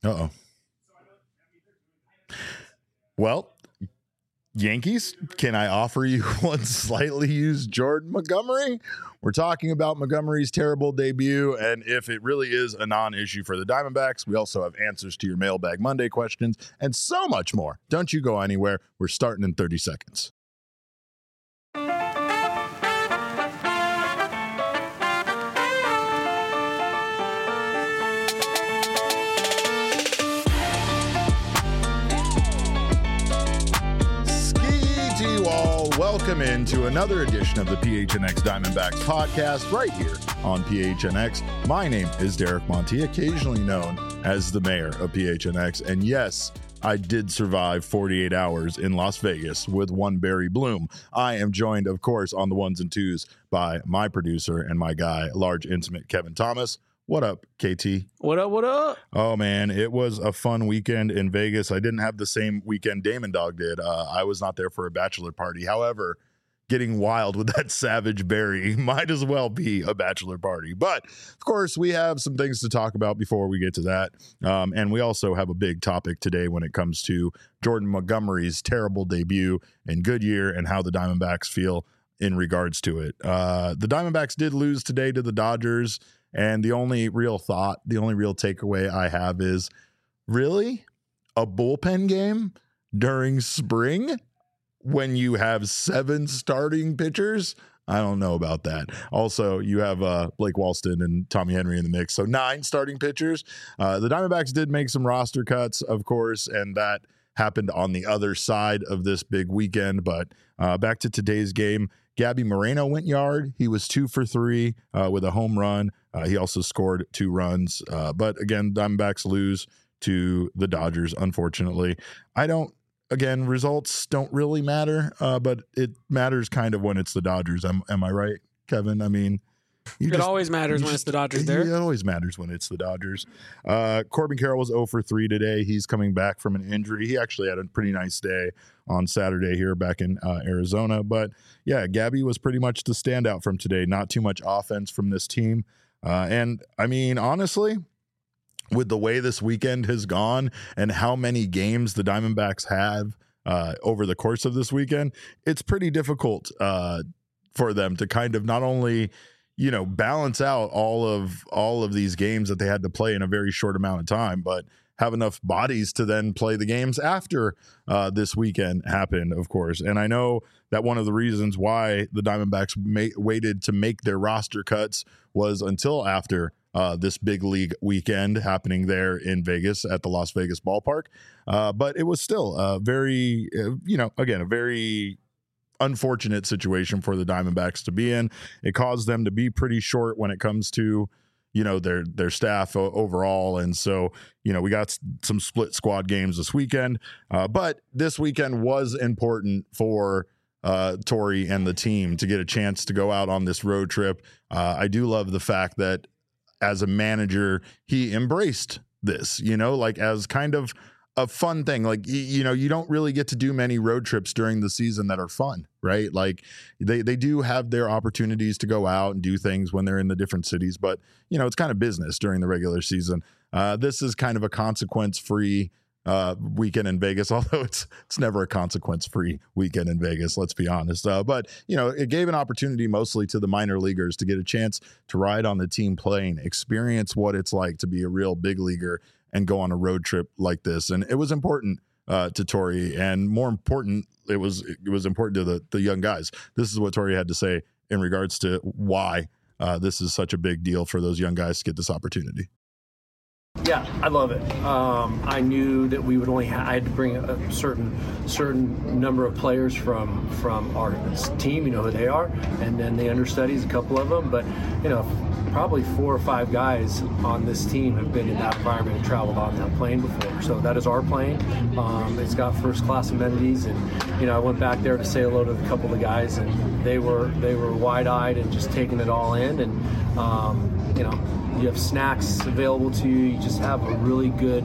Uh-oh. Well, Yankees, can I offer you one slightly used Jordan Montgomery? We're talking about Montgomery's terrible debut and if it really is a non-issue for the Diamondbacks. We also have answers to your Mailbag Monday questions and so much more. Don't you go anywhere. We're starting in 30 seconds. Welcome into another edition of the PHNX Diamondbacks podcast right here on PHNX. My name is Derek Monti, occasionally known as the mayor of PHNX. And yes, I did survive 48 hours in Las Vegas with one Barry Bloom. I am joined, of course, on the ones and twos by my producer and my guy, large intimate Kevin Thomas. What up, KT? What up, what up? Oh, man, it was a fun weekend in Vegas. I didn't have the same weekend Damon Dog did. I was not there for a bachelor party. However, getting wild with that Savage Berry might as well be a bachelor party. But, of course, we have some things to talk about before we get to that. And we also have a big topic today when it comes to Jordan Montgomery's terrible debut in Goodyear and how the Diamondbacks feel in regards to it. The Diamondbacks did lose today to the Dodgers. And the only real takeaway I have is, really? A bullpen game during spring when you have 7 starting pitchers? I don't know about that. Also, you have Blake Walston and Tommy Henry in the mix, so 9 starting pitchers. The Diamondbacks did make some roster cuts, of course, and that happened on the other side of this big weekend. But back to today's game, Gabby Moreno went yard. He was 2 for 3 with a home run. He also scored 2 runs. But again, Diamondbacks lose to the Dodgers, unfortunately. Results don't really matter, but it matters kind of when it's the Dodgers. Am I right, Kevin? I mean, it always matters when it's the Dodgers there. It always matters when it's the Dodgers. Corbin Carroll was 0 for 3 today. He's coming back from an injury. He actually had a pretty nice day on Saturday here back in Arizona. But, yeah, Gabby was pretty much the standout from today. Not too much offense from this team. And, I mean, honestly, with the way this weekend has gone and how many games the Diamondbacks have over the course of this weekend, it's pretty difficult for them to kind of not only – balance out all of these games that they had to play in a very short amount of time, but have enough bodies to then play the games after this weekend happened, of course. And I know that one of the reasons why the Diamondbacks waited to make their roster cuts was until after this big league weekend happening there in Vegas at the Las Vegas ballpark. But it was still a very unfortunate situation for the Diamondbacks to be in. It caused them to be pretty short when it comes to, their staff overall. And so, we got some split squad games this weekend. But this weekend was important for Torey and the team to get a chance to go out on this road trip. I do love the fact that as a manager, he embraced this, as kind of a fun thing. Like, you don't really get to do many road trips during the season that are fun, right? Like they do have their opportunities to go out and do things when they're in the different cities, but it's kind of business during the regular season. This is kind of a consequence-free weekend in Vegas, although it's never a consequence-free weekend in Vegas, let's be honest. But it gave an opportunity mostly to the minor leaguers to get a chance to ride on the team plane, experience what it's like to be a real big leaguer and go on a road trip like this. And it was important to Torey, and more important, it was important to the young guys. This is what Torey had to say in regards to why this is such a big deal for those young guys to get this opportunity. Yeah, I love it. I knew that we would I had to bring a certain number of players from our team, who they are, and then the understudies, a couple of them. But, probably 4 or 5 guys on this team have been in that environment and traveled on that plane before. So that is our plane. It's got first-class amenities, and, I went back there to say hello to a couple of the guys, and they were wide-eyed and just taking it all in. And, you have snacks available to you. You just have a really good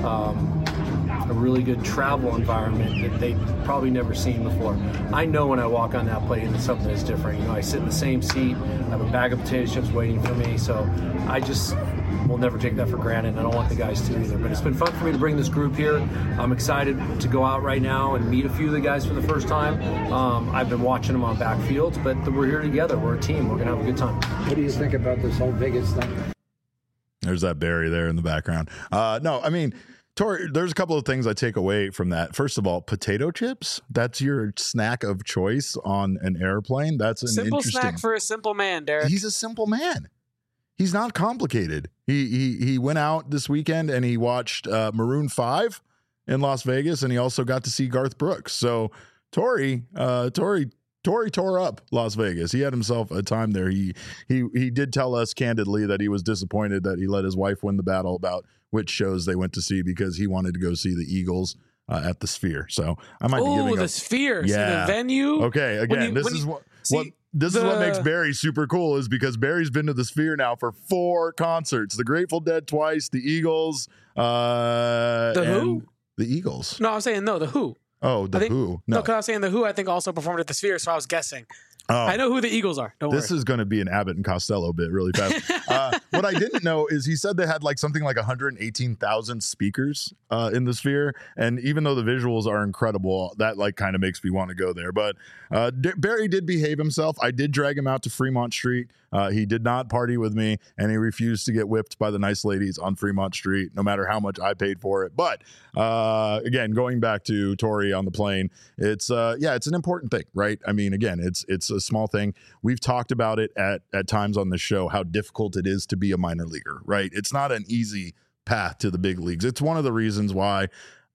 travel environment that they've probably never seen before. I know when I walk on that plane, it's something that's different. I sit in the same seat. I have a bag of potato chips waiting for me. So I just we'll never take that for granted, and I don't want the guys to either. But it's been fun for me to bring this group here. I'm excited to go out right now and meet a few of the guys for the first time. I've been watching them on backfields, but we're here together. We're a team. We're going to have a good time. What do you think about this whole Vegas thing? There's that Barry there in the background. No, I mean, Tori, there's a couple of things I take away from that. First of all, potato chips, that's your snack of choice on an airplane. That's an simple interesting snack for a simple man, Derek. He's a simple man. He's not complicated. He went out this weekend and he watched Maroon 5 in Las Vegas, and he also got to see Garth Brooks. So Tori tore up Las Vegas. He had himself a time there. He did tell us candidly that he was disappointed that he let his wife win the battle about which shows they went to see, because he wanted to go see the Eagles at the Sphere. So I might be giving the up. Sphere. Yeah. See the venue. Okay, again, this is what makes Barry super cool, is because Barry's been to the Sphere now for 4 concerts: the Grateful Dead twice, the Eagles, Who? The Eagles. No, I'm saying no, the Who. Oh, Who. No, because I was saying the Who, I think, also performed at the Sphere, so I was guessing. Oh. I know who the Eagles are. Don't worry. This is going to be an Abbott and Costello bit really fast. What I didn't know is he said they had like something like 118,000 speakers in the Sphere. And even though the visuals are incredible, that like kind of makes me want to go there. But Barry did behave himself. I did drag him out to Fremont Street. He did not party with me, and he refused to get whipped by the nice ladies on Fremont Street, no matter how much I paid for it. But again, going back to Tori on the plane, it's an important thing, right? I mean, again, it's a small thing. We've talked about it at times on the show, how difficult it is to be a minor leaguer, right? It's not an easy path to the big leagues. It's one of the reasons why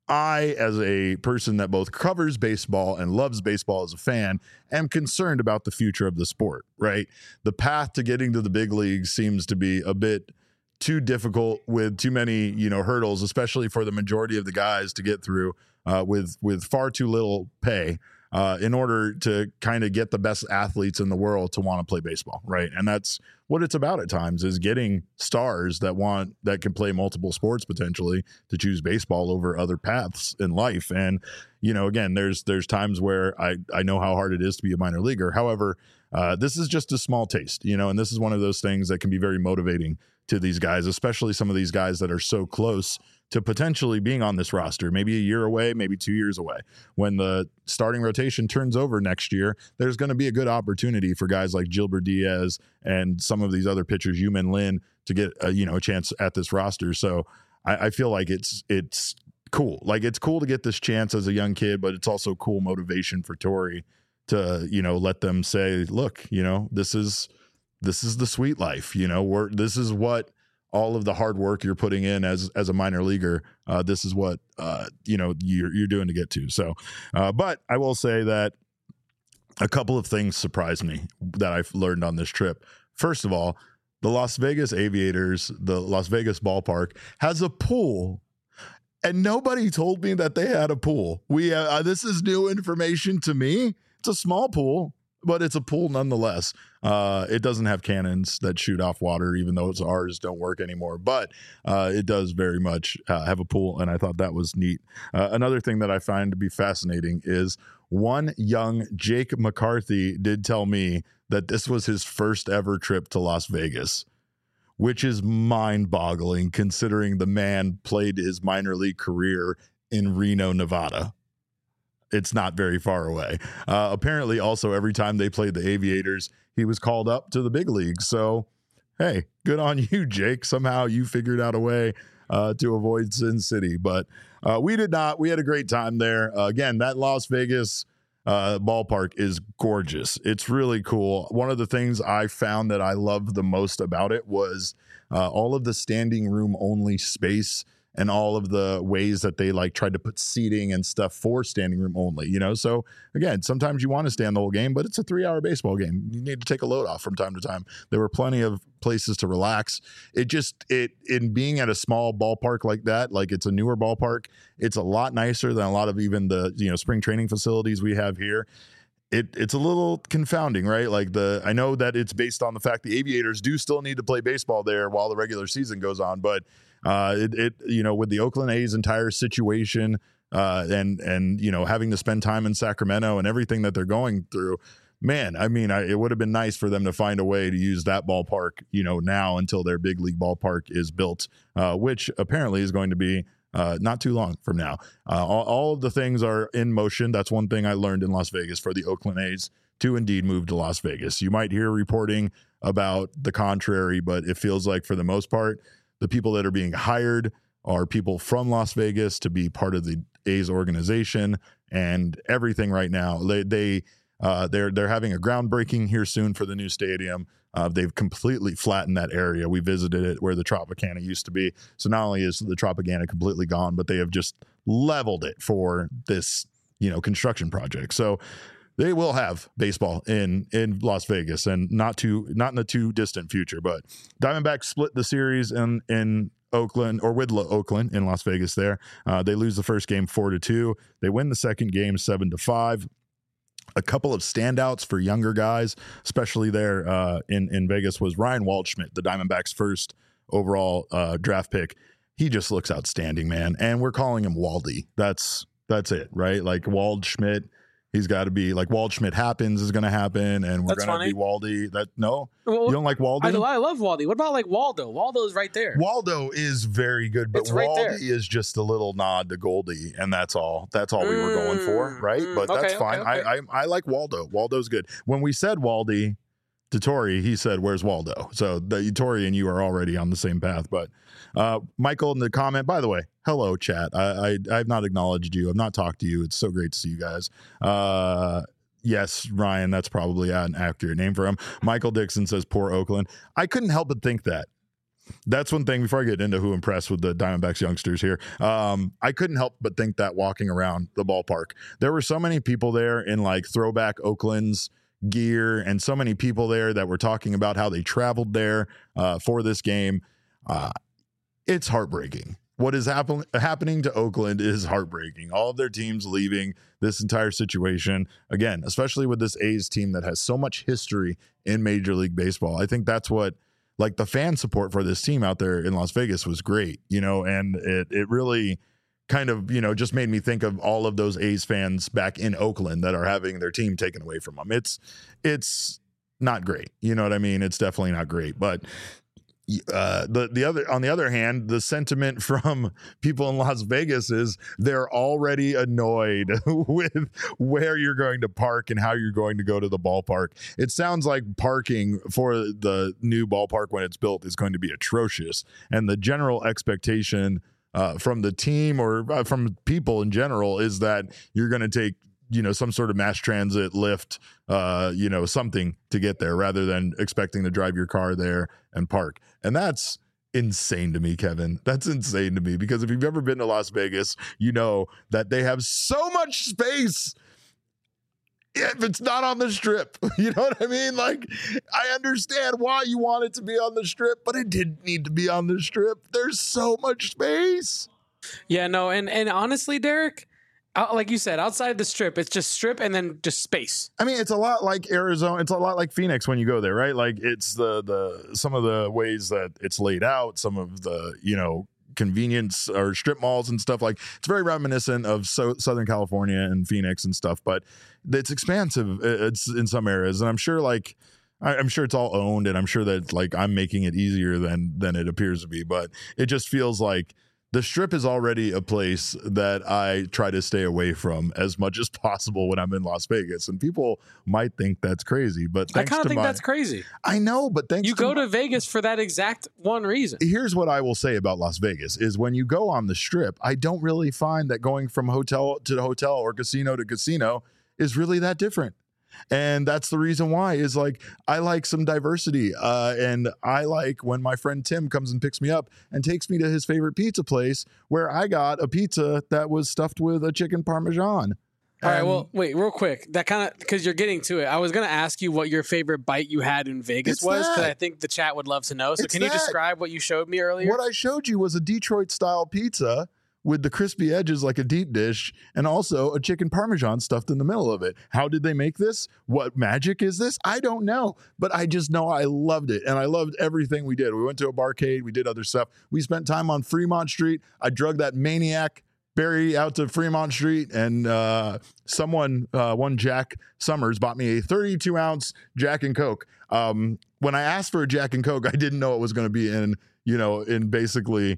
I, as a person that both covers baseball and loves baseball as a fan, am concerned about the future of the sport, right? The path to getting to the big leagues seems to be a bit too difficult, with too many, hurdles, especially for the majority of the guys to get through with far too little pay in order to kind of get the best athletes in the world to want to play baseball, right? And that's what it's about at times, is getting stars that can play multiple sports potentially to choose baseball over other paths in life. And, again, there's times where I know how hard it is to be a minor leaguer. However, this is just a small taste, and this is one of those things that can be very motivating to these guys, especially some of these guys that are so close to potentially being on this roster, maybe a year away, maybe 2 years away. When the starting rotation turns over next year, there's going to be a good opportunity for guys like Gilbert Diaz and some of these other pitchers, Yumin Lin, to get a chance at this roster. So I feel like it's cool. Like, it's cool to get this chance as a young kid, but it's also cool motivation for Tori to, let them say, look, this is the sweet life, this is what all of the hard work you're putting in as a minor leaguer. This is what, you're doing to get to. So, but I will say that a couple of things surprised me that I've learned on this trip. First of all, the Las Vegas Aviators, the Las Vegas ballpark, has a pool, and nobody told me that they had a pool. This is new information to me. It's a small pool, but it's a pool nonetheless. It doesn't have cannons that shoot off water, even though ours don't work anymore. But it does very much have a pool, and I thought that was neat. Another thing that I find to be fascinating is one young Jake McCarthy did tell me that this was his first ever trip to Las Vegas, which is mind-boggling considering the man played his minor league career in Reno, Nevada. It's not very far away. Apparently, also, every time they played the Aviators, he was called up to the big leagues. So, hey, good on you, Jake. Somehow you figured out a way to avoid Sin City. But we did not. We had a great time there. Again, that Las Vegas ballpark is gorgeous. It's really cool. One of the things I found that I loved the most about it was all of the standing room only space, and all of the ways that they tried to put seating and stuff for standing room only, So again, sometimes you want to stand the whole game, but it's a 3-hour baseball game. You need to take a load off from time to time. There were plenty of places to relax. In being at a small ballpark like that, like it's a newer ballpark, it's a lot nicer than a lot of even the, spring training facilities we have here. It's a little confounding, right? I know that it's based on the fact the Aviators do still need to play baseball there while the regular season goes on, but with the Oakland A's entire situation and having to spend time in Sacramento and everything that they're going through, man, I mean, it would have been nice for them to find a way to use that ballpark, now until their big league ballpark is built, which apparently is going to be not too long from now. All of the things are in motion. That's one thing I learned in Las Vegas for the Oakland A's to indeed move to Las Vegas. You might hear reporting about the contrary, but it feels like for the most part, the people that are being hired are people from Las Vegas to be part of the A's organization, and everything right now. They're having a groundbreaking here soon for the new stadium. They've completely flattened that area. We visited it where the Tropicana used to be. So not only is the Tropicana completely gone, but they have just leveled it for this, construction project. So they will have baseball in Las Vegas, and not in the too distant future. But Diamondbacks split the series in Oakland, or with Oakland in Las Vegas there. They lose the first game 4-2. They win the second game 7-5. A couple of standouts for younger guys, especially there in Vegas, was Ryan Waldschmidt, the Diamondbacks' first overall draft pick. He just looks outstanding, man. And we're calling him Waldy. That's it, right? Like Waldschmidt. He's got to be like Waldschmidt happens is going to happen, and we're going to be Waldy. You don't like Waldy? I love Waldy. What about like Waldo? Waldo is right there. Waldo is very good, but right Waldy there. is just a little nod to Goldie, and that's all. That's all we were going for, right? But that's fine. Okay. I like Waldo. Waldo's good. When we said Waldy to Tori, he said, "Where's Waldo?" So Tori and you are already on the same path. But Michael in the comment, by the way, hello chat. I've not acknowledged you. I've not talked to you. It's so great to see you guys. Yes, Ryan, that's probably an accurate name for him. Michael Dixon says, "Poor Oakland." I couldn't help but think that. That's one thing before I get into who impressed with the Diamondbacks youngsters here. I couldn't help but think that walking around the ballpark, there were so many people there in like throwback Oakland's gear, and so many people there that were talking about how they traveled there for this game. It's heartbreaking. What is happening to Oakland is heartbreaking. All of their teams leaving, this entire situation, again, especially with this A's team that has so much history in Major League Baseball. I think that's what, like, the fan support for this team out there in Las Vegas was great, and it really kind of, just made me think of all of those A's fans back in Oakland that are having their team taken away from them. It's not great. You know what I mean? It's definitely not great. But on the other hand, the sentiment from people in Las Vegas is they're already annoyed with where you're going to park and how you're going to go to the ballpark. It sounds like parking for the new ballpark when it's built is going to be atrocious. And the general expectation from the team or from people in general is that you're going to take some sort of mass transit, lift, something to get there rather than expecting to drive your car there and park. And that's insane to me, Kevin. That's insane to me, because if you've ever been to Las Vegas, you know that they have so much space if it's not on the Strip. You know what I mean? Like, I understand why you want it to be on the Strip, but it didn't need to be on the Strip. There's so much space. Yeah, no, and honestly, Derek, like you said, outside the Strip, it's just Strip and then just space. I mean, it's a lot like Arizona. It's a lot like Phoenix when you go there, right? Like, it's the some of the ways that it's laid out, some of the, convenience or strip malls and stuff. Like, it's very reminiscent of Southern California and Phoenix and stuff, but it's expansive. It's in some areas, and I'm sure I'm sure it's all owned, and I'm sure that like I'm making it easier than it appears to be, but it just feels like the Strip is already a place that I try to stay away from as much as possible when I'm in Las Vegas. And people might think that's crazy, but I kind of think that's crazy. I know, but you go to Vegas for that exact one reason. Here's what I will say about Las Vegas is when you go on the Strip, I don't really find that going from hotel to hotel or casino to casino is really that different. And that's the reason why is like, I like some diversity. And I like when my friend Tim comes and picks me up and takes me to his favorite pizza place where I got a pizza that was stuffed with a chicken Parmesan. All right, well, wait, real quick. That kind of, because you're getting to it. I was going to ask you what your favorite bite you had in Vegas was, because I think the chat would love to know. So can you describe what you showed me earlier? What I showed you was a Detroit-style pizza with the crispy edges like a deep dish, and also a chicken Parmesan stuffed in the middle of it. How did they make this? What magic is this? I don't know, but I just know I loved it, and I loved everything we did. We went to a barcade, we did other stuff. We spent time on Fremont Street. I drug that maniac Barry out to Fremont Street, and one Jack Summers bought me a 32-ounce Jack and Coke. When I asked for a Jack and Coke, I didn't know it was going to be in basically,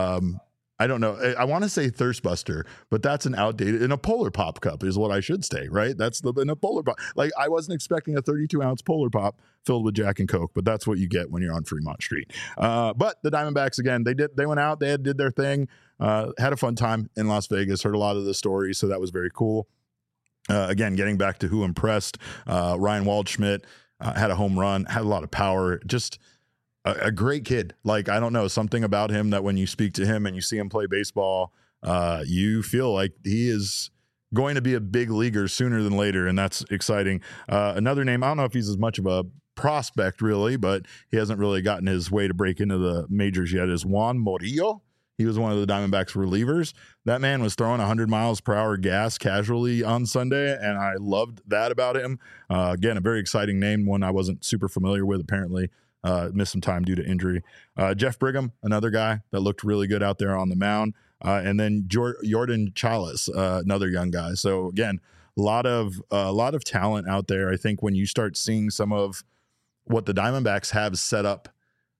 I don't know. I want to say Thirst Buster, but that's in a Polar Pop cup is what I should say, right? That's in a Polar Pop. Like, I wasn't expecting a 32-ounce Polar Pop filled with Jack and Coke, but that's what you get when you're on Fremont Street. But the Diamondbacks, again, they went out, they did their thing, had a fun time in Las Vegas, heard a lot of the stories, so that was very cool. Again, getting back to who impressed, Ryan Waldschmidt had a home run, had a lot of power, just a great kid. Like, I don't know, something about him that when you speak to him and you see him play baseball, you feel like he is going to be a big leaguer sooner than later, and that's exciting. Another name, I don't know if he's as much of a prospect really, but he hasn't really gotten his way to break into the majors yet, is Juan Murillo. He was one of the Diamondbacks relievers. That man was throwing 100 miles per hour gas casually on Sunday, and I loved that about him. Again, a very exciting name, one I wasn't super familiar with, apparently. Missed some time due to injury. Jeff Brigham, another guy that looked really good out there on the mound. And then Jordan Chalice, another young guy. So again, a lot of talent out there. I think when you start seeing some of what the Diamondbacks have set up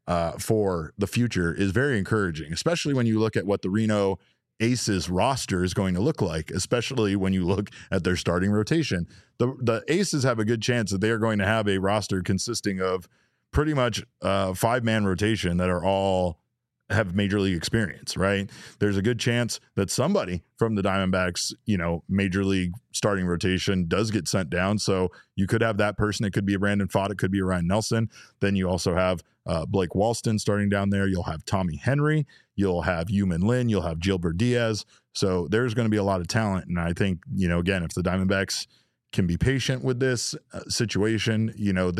for the future is very encouraging, especially when you look at what the Reno Aces roster is going to look like, especially when you look at their starting rotation. The Aces have a good chance that they are going to have a roster consisting of pretty much 5-man rotation that are all have major league experience, right? There's a good chance that somebody from the Diamondbacks, major league starting rotation does get sent down. So you could have that person. It could be a Brandon Pfaadt. It could be a Ryan Nelson. Then you also have Blake Walston starting down there. You'll have Tommy Henry. You'll have Yumin Lin. You'll have Gilbert Diaz. So there's going to be a lot of talent. And I think, again, if the Diamondbacks can be patient with this situation,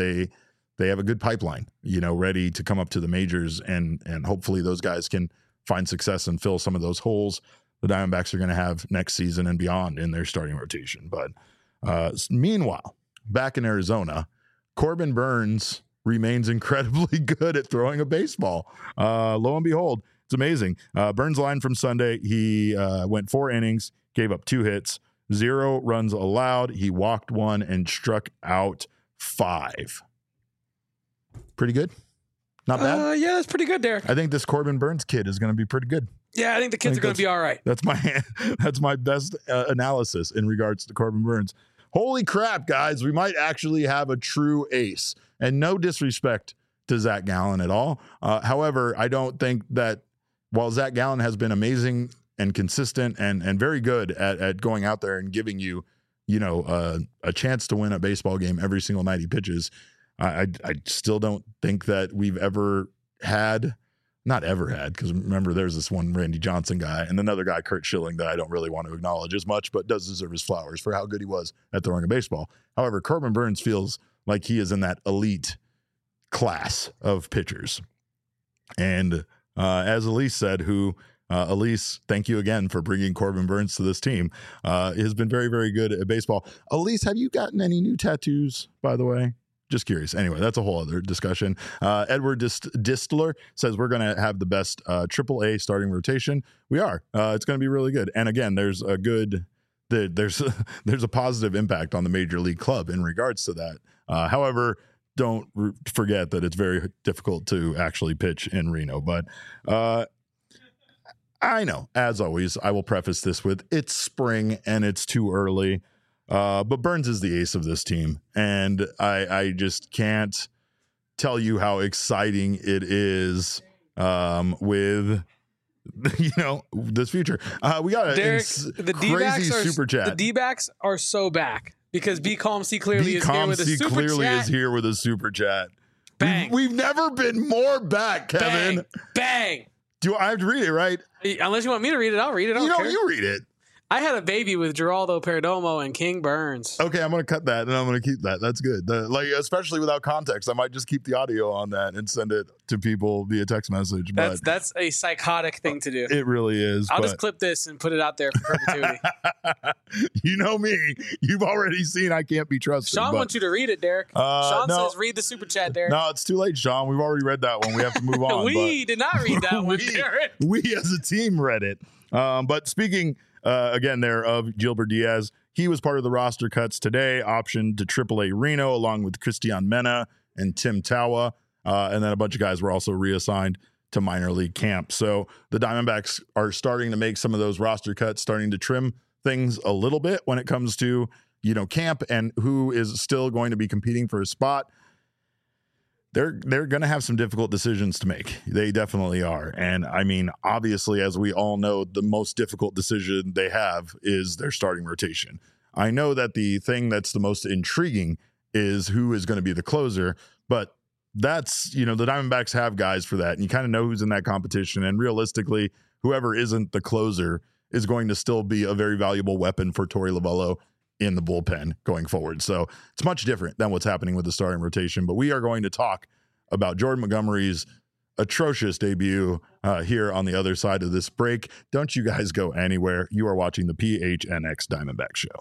they have a good pipeline, ready to come up to the majors, and hopefully those guys can find success and fill some of those holes the Diamondbacks are going to have next season and beyond in their starting rotation. But meanwhile, back in Arizona, Corbin Burnes remains incredibly good at throwing a baseball. Lo and behold, it's amazing. Burnes' line from Sunday, he went 4 innings, gave up 2 hits, 0 runs allowed. He walked 1 and struck out 5. Pretty good. Not bad. Yeah, that's pretty good, Derek. I think this Corbin Burnes kid is going to be pretty good. Yeah, I think the kids are going to be all right. That's my best analysis in regards to Corbin Burnes. Holy crap, guys. We might actually have a true ace. And no disrespect to Zach Gallen at all. However, I don't think that while Zach Gallen has been amazing and consistent and very good at going out there and giving you, a chance to win a baseball game every single night he pitches, I still don't think that we've ever had, not ever had, because remember there's this one Randy Johnson guy and another guy, Kurt Schilling, that I don't really want to acknowledge as much, but does deserve his flowers for how good he was at throwing a baseball. However, Corbin Burnes feels like he is in that elite class of pitchers. And as Elise said, Elise, thank you again for bringing Corbin Burnes to this team, has been very, very good at baseball. Elise, have you gotten any new tattoos, by the way? Just curious. Anyway, that's a whole other discussion. Edward Distler says we're going to have the best AAA starting rotation. We are. It's going to be really good. And again, there's a positive impact on the major league club in regards to that. However, don't forget that it's very difficult to actually pitch in Reno. But I know, as always, I will preface this with it's spring and it's too early. But Burnes is the ace of this team, and I just can't tell you how exciting it is with this future. We got the crazy super chat. The D-backs are so back because B Calm C clearly is here with a super clearly chat. Is here with a super chat. Bang. We've never been more back, Kevin. Bang. Do I have to read it, right? Unless you want me to read it, I'll read it. You read it. I had a baby with Geraldo Perdomo and King Burns. Okay, I'm going to cut that, and I'm going to keep that. That's good. Especially without context, I might just keep the audio on that and send it to people via text message. That's a psychotic thing to do. It really is. I'll just clip this and put it out there for perpetuity. You know me. You've already seen I can't be trusted. Sean wants you to read it, Derek. Sean says read the super chat, Derek. No, it's too late, Sean. We've already read that one. We have to move on. We did not read that one, Derek. We as a team read it. But speaking again there of Gilbert Diaz, he was part of the roster cuts today, optioned to AAA Reno along with Christian Mena and Tim Tawa. And then a bunch of guys were also reassigned to minor league camp. So the Diamondbacks are starting to make some of those roster cuts, starting to trim things a little bit when it comes to, camp and who is still going to be competing for a spot. They're going to have some difficult decisions to make. They definitely are. And I mean, obviously, as we all know, the most difficult decision they have is their starting rotation. I know that the thing that's the most intriguing is who is going to be the closer, but that's, the Diamondbacks have guys for that, and you kind of know who's in that competition. And realistically, whoever isn't the closer is going to still be a very valuable weapon for Torey Lovullo in the bullpen going forward. So it's much different than what's happening with the starting rotation. But we are going to talk about Jordan Montgomery's atrocious debut here on the other side of this break. Don't you guys go anywhere. You are watching the PHNX Diamondback Show.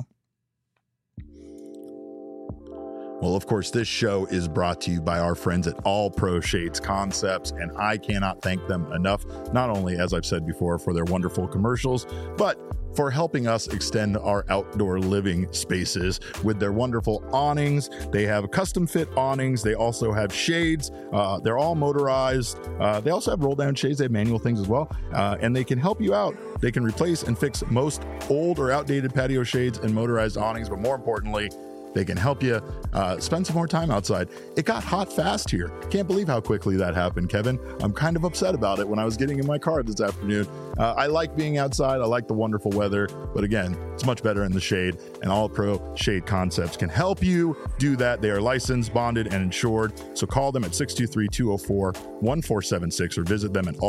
Well, of course, this show is brought to you by our friends at All Pro Shades Concepts, and I cannot thank them enough, not only, as I've said before, for their wonderful commercials, but for helping us extend our outdoor living spaces with their wonderful awnings. They have custom fit awnings. They also have shades. They're all motorized. They also have roll down shades. They have manual things as well. And they can help you out. They can replace and fix most old or outdated patio shades and motorized awnings, but more importantly, they can help you spend some more time outside. It got hot fast here. Can't believe how quickly that happened, Kevin. I'm kind of upset about it when I was getting in my car this afternoon. I like being outside. I like the wonderful weather. But again, it's much better in the shade. And All Pro Shade Concepts can help you do that. They are licensed, bonded, and insured. So call them at 623-204-1476 or visit them at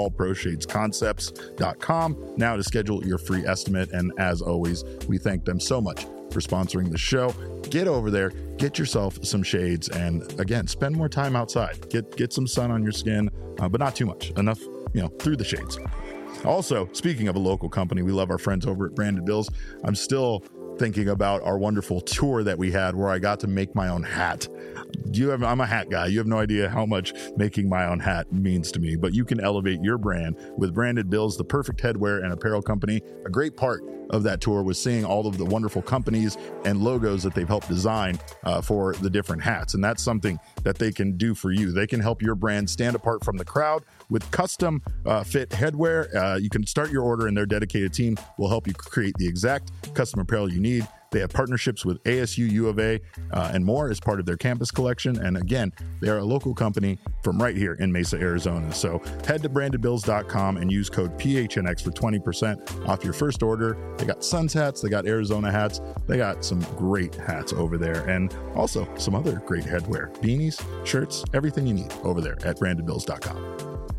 allproshadesconcepts.com now to schedule your free estimate. And as always, we thank them so much for sponsoring the show. Get over there, get yourself some shades, and again, spend more time outside. Get some sun on your skin, but not too much. Enough, through the shades. Also, speaking of a local company, we love our friends over at Branded Bills. I'm still thinking about our wonderful tour that we had where I got to make my own hat. I'm a hat guy. You have no idea how much making my own hat means to me, but you can elevate your brand with Branded Bills, the perfect headwear and apparel company. A great part of that tour was seeing all of the wonderful companies and logos that they've helped design for the different hats. And that's something that they can do for you. They can help your brand stand apart from the crowd with custom fit headwear. You can start your order and their dedicated team will help you create the exact custom apparel you need. They have partnerships with ASU, U of A, and more as part of their campus collection. And again, they are a local company from right here in Mesa, Arizona. So head to brandedbills.com and use code PHNX for 20% off your first order. They got Suns hats, they got Arizona hats, they got some great hats over there, and also some other great headwear, beanies, shirts, everything you need over there at brandedbills.com.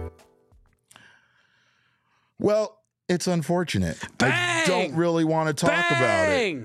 Well, it's unfortunate. Bang! I don't really want to talk about it.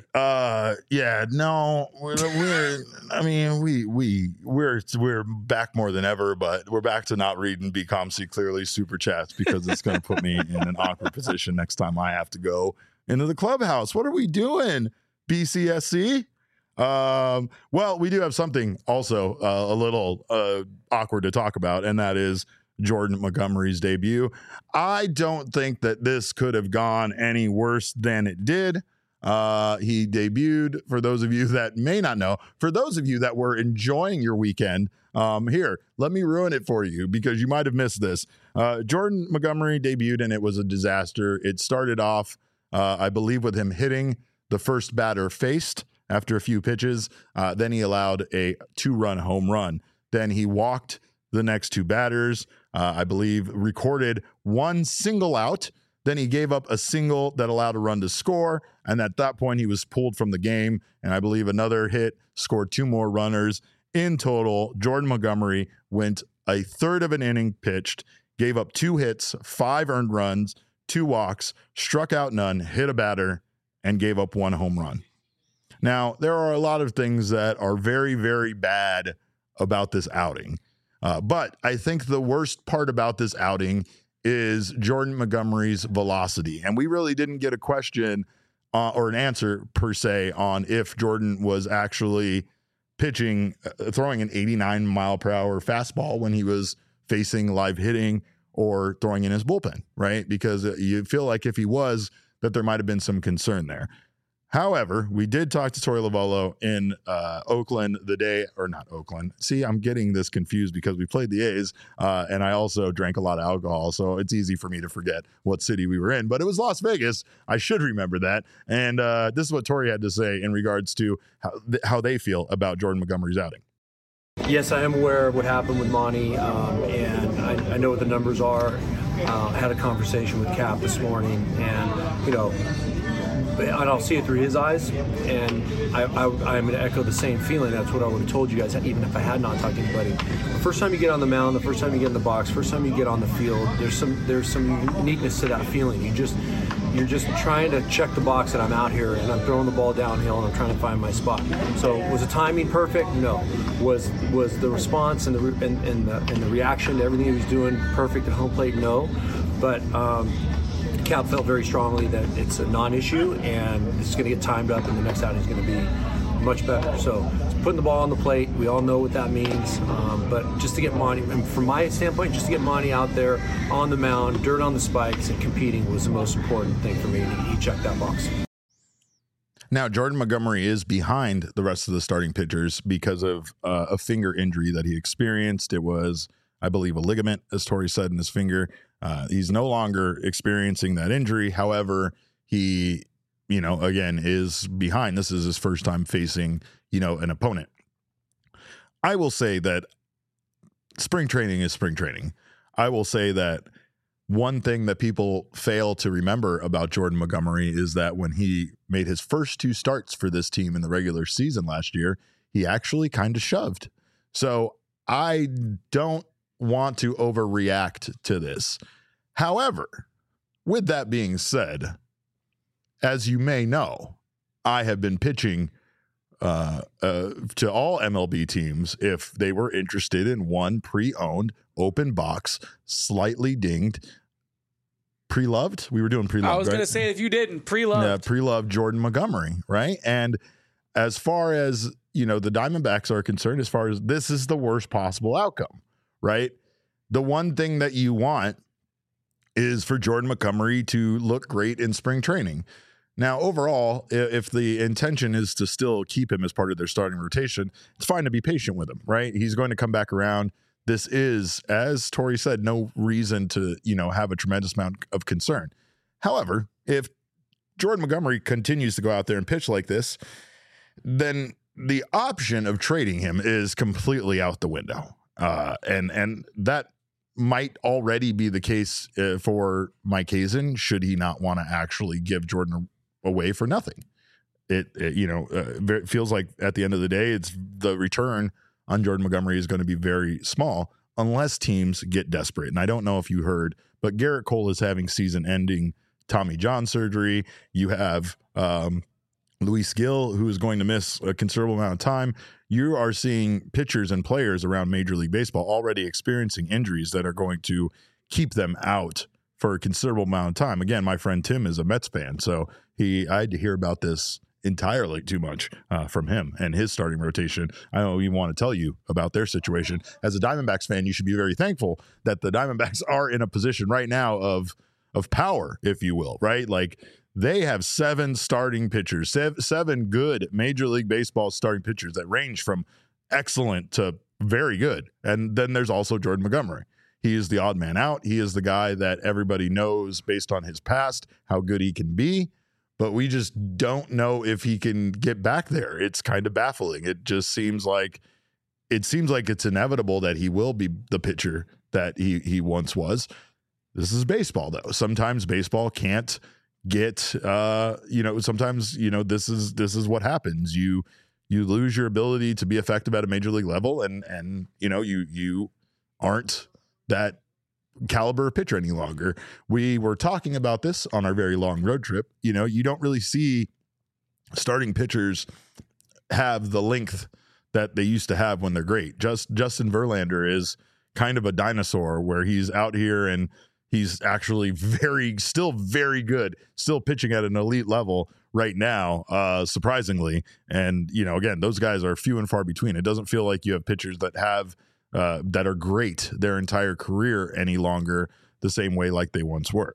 We're back more than ever, but we're back to not reading BComC Clearly super chats because it's going to put me in an awkward position next time I have to go into the clubhouse. What are we doing, BCSC? Well, we do have something also a little awkward to talk about, and that is Jordan Montgomery's debut. I don't think that this could have gone any worse than it did. He debuted, for those of you that may not know, for those of you that were enjoying your weekend, here, let me ruin it for you because you might have missed this. Jordan Montgomery debuted and it was a disaster. It started off, I believe, with him hitting the first batter faced after a few pitches. Then he allowed a 2-run home run. Then he walked the next 2 batters, I believe recorded 1 single out. Then he gave up a single that allowed a run to score. And at that point, he was pulled from the game. And I believe another hit scored 2 more runners. In total, Jordan Montgomery went a third of an inning pitched, gave up 2 hits, 5 earned runs, 2 walks, struck out none, hit a batter, and gave up 1 home run. Now, there are a lot of things that are very, very bad about this outing. But I think the worst part about this outing is Jordan Montgomery's velocity. And we really didn't get a question or an answer per se on if Jordan was actually pitching, throwing an 89 mile per hour fastball when he was facing live hitting, or throwing in his bullpen, right? Because you feel like if he was, that there might have been some concern there. However, we did talk to Torey Lovullo in Oakland the day, or not Oakland. See, I'm getting this confused because we played the A's, and I also drank a lot of alcohol, so it's easy for me to forget what city we were in. But it was Las Vegas. I should remember that. And this is what Torey had to say in regards to how they feel about Jordan Montgomery's outing. Yes, I am aware of what happened with Monty, and I know what the numbers are. I had a conversation with Cap this morning, and, you know, and I'll see it through his eyes, and I'm going to echo the same feeling. That's what I would have told you guys, even if I had not talked to anybody. The first time you get on the mound, the first time you get in the box, first time you get on the field, there's some uniqueness to that feeling. You're just trying to check the box that I'm out here, and I'm throwing the ball downhill, and I'm trying to find my spot. So was the timing perfect? No. Was the response and the reaction to everything he was doing perfect at home plate? No. But Cap felt very strongly that it's a non-issue, and it's going to get timed up, and the next outing is going to be much better. So putting the ball on the plate, we all know what that means. But just to get Monty, and from my standpoint, just to get Monty out there on the mound, dirt on the spikes, and competing was the most important thing for me. And he checked that box. Now, Jordan Montgomery is behind the rest of the starting pitchers because of a finger injury that he experienced. It was, I believe, a ligament, as Torey said, in his finger. He's no longer experiencing that injury. However, he, again, is behind. This is his first time facing, an opponent. I will say that spring training is spring training. I will say that one thing that people fail to remember about Jordan Montgomery is that when he made his first 2 starts for this team in the regular season last year, he actually kind of shoved. So I don't want to overreact to this. However, with that being said, as you may know, I have been pitching to all MLB teams if they were interested in one pre-owned, open box, slightly dinged, pre-loved. We were doing pre-loved. I was going to say, if you didn't, pre-loved. Yeah, pre-loved Jordan Montgomery, right? And as far as, the Diamondbacks are concerned, as far as this is the worst possible outcome, right? The one thing that you want is for Jordan Montgomery to look great in spring training. Now, overall, if the intention is to still keep him as part of their starting rotation, it's fine to be patient with him, right? He's going to come back around. This is, as Torey said, no reason to, have a tremendous amount of concern. However, if Jordan Montgomery continues to go out there and pitch like this, then the option of trading him is completely out the window. And that might already be the case for Mike Hazen, should he not want to actually give Jordan away for nothing. It feels like at the end of the day, it's the return on Jordan Montgomery is going to be very small unless teams get desperate. And I don't know if you heard, but Garrett Cole is having season-ending Tommy John surgery. You have Luis Gil, who is going to miss a considerable amount of time. You are seeing pitchers and players around Major League Baseball already experiencing injuries that are going to keep them out for a considerable amount of time. Again, my friend Tim is a Mets fan, so I had to hear about this entirely too much from him and his starting rotation. I don't even want to tell you about their situation. As a Diamondbacks fan, you should be very thankful that the Diamondbacks are in a position right now of power, if you will, right? Like, they have 7 starting pitchers, 7 good Major League Baseball starting pitchers that range from excellent to very good. And then there's also Jordan Montgomery. He is the odd man out. He is the guy that everybody knows based on his past how good he can be, but we just don't know if he can get back there. It's kind of baffling. It just seems like it's inevitable that he will be the pitcher that he once was. This is baseball, though. Sometimes baseball can't get sometimes this is what happens. You lose your ability to be effective at a major league level, and you aren't that caliber pitcher any longer. We were talking about this on our very long road trip. You don't really see starting pitchers have the length that they used to have when they're great. Justin Verlander is kind of a dinosaur where he's out here and he's actually still very good, still pitching at an elite level right now, surprisingly. And, again, those guys are few and far between. It doesn't feel like you have pitchers that have that are great their entire career any longer the same way like they once were.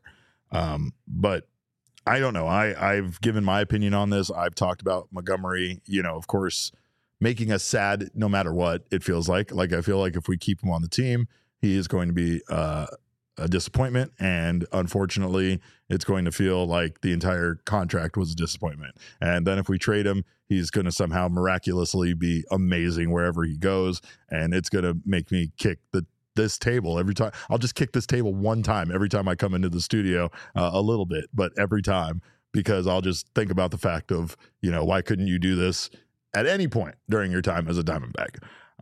But I don't know. I've given my opinion on this. I've talked about Montgomery, of course, making us sad no matter what it feels like. Like, I feel like if we keep him on the team, he is going to be a disappointment. And unfortunately, it's going to feel like the entire contract was a disappointment. And then if we trade him, he's going to somehow miraculously be amazing wherever he goes. And it's going to make me kick this table every time. I'll just kick this table one time every time I come into the studio, a little bit, but every time, because I'll just think about the fact of, why couldn't you do this at any point during your time as a Diamondback?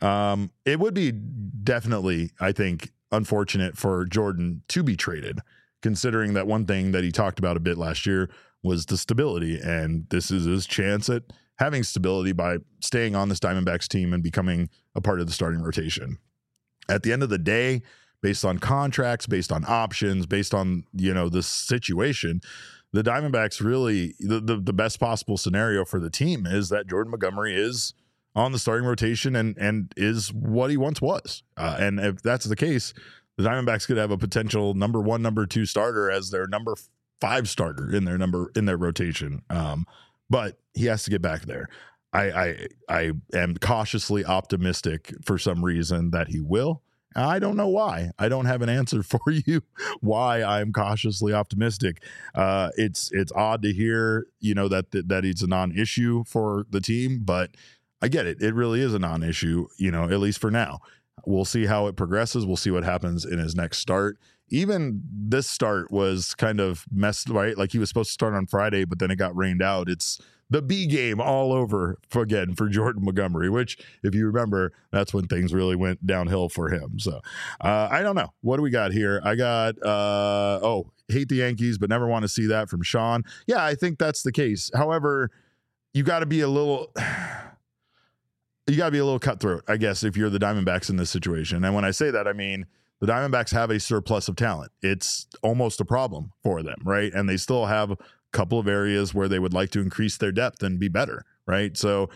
It would be definitely, I think, unfortunate for Jordan to be traded, considering that one thing that he talked about a bit last year was the stability. And this is his chance at having stability by staying on this Diamondbacks team and becoming a part of the starting rotation. At the end of the day, based on contracts, based on options, based on, this situation, the Diamondbacks really, the best possible scenario for the team is that Jordan Montgomery is on the starting rotation and is what he once was. And if that's the case, the Diamondbacks could have a potential number 1, number 2 starter as their number 5 starter in their rotation. But he has to get back there. I am cautiously optimistic for some reason that he will. I don't know why. I don't have an answer for you why I'm cautiously optimistic. It's odd to hear, that it's a non-issue for the team, but I get it. It really is a non-issue, at least for now. We'll see how it progresses. We'll see what happens in his next start. Even this start was kind of messed, right? Like, he was supposed to start on Friday, but then it got rained out. It's the B game all over for Jordan Montgomery, which, if you remember, that's when things really went downhill for him. So I don't know. What do we got here? I got, hate the Yankees, but never want to see that from Sean. Yeah, I think that's the case. However, you got to be a little cutthroat, I guess, if you're the Diamondbacks in this situation. And when I say that, I mean, the Diamondbacks have a surplus of talent. It's almost a problem for them, right? And they still have a couple of areas where they would like to increase their depth and be better, right? So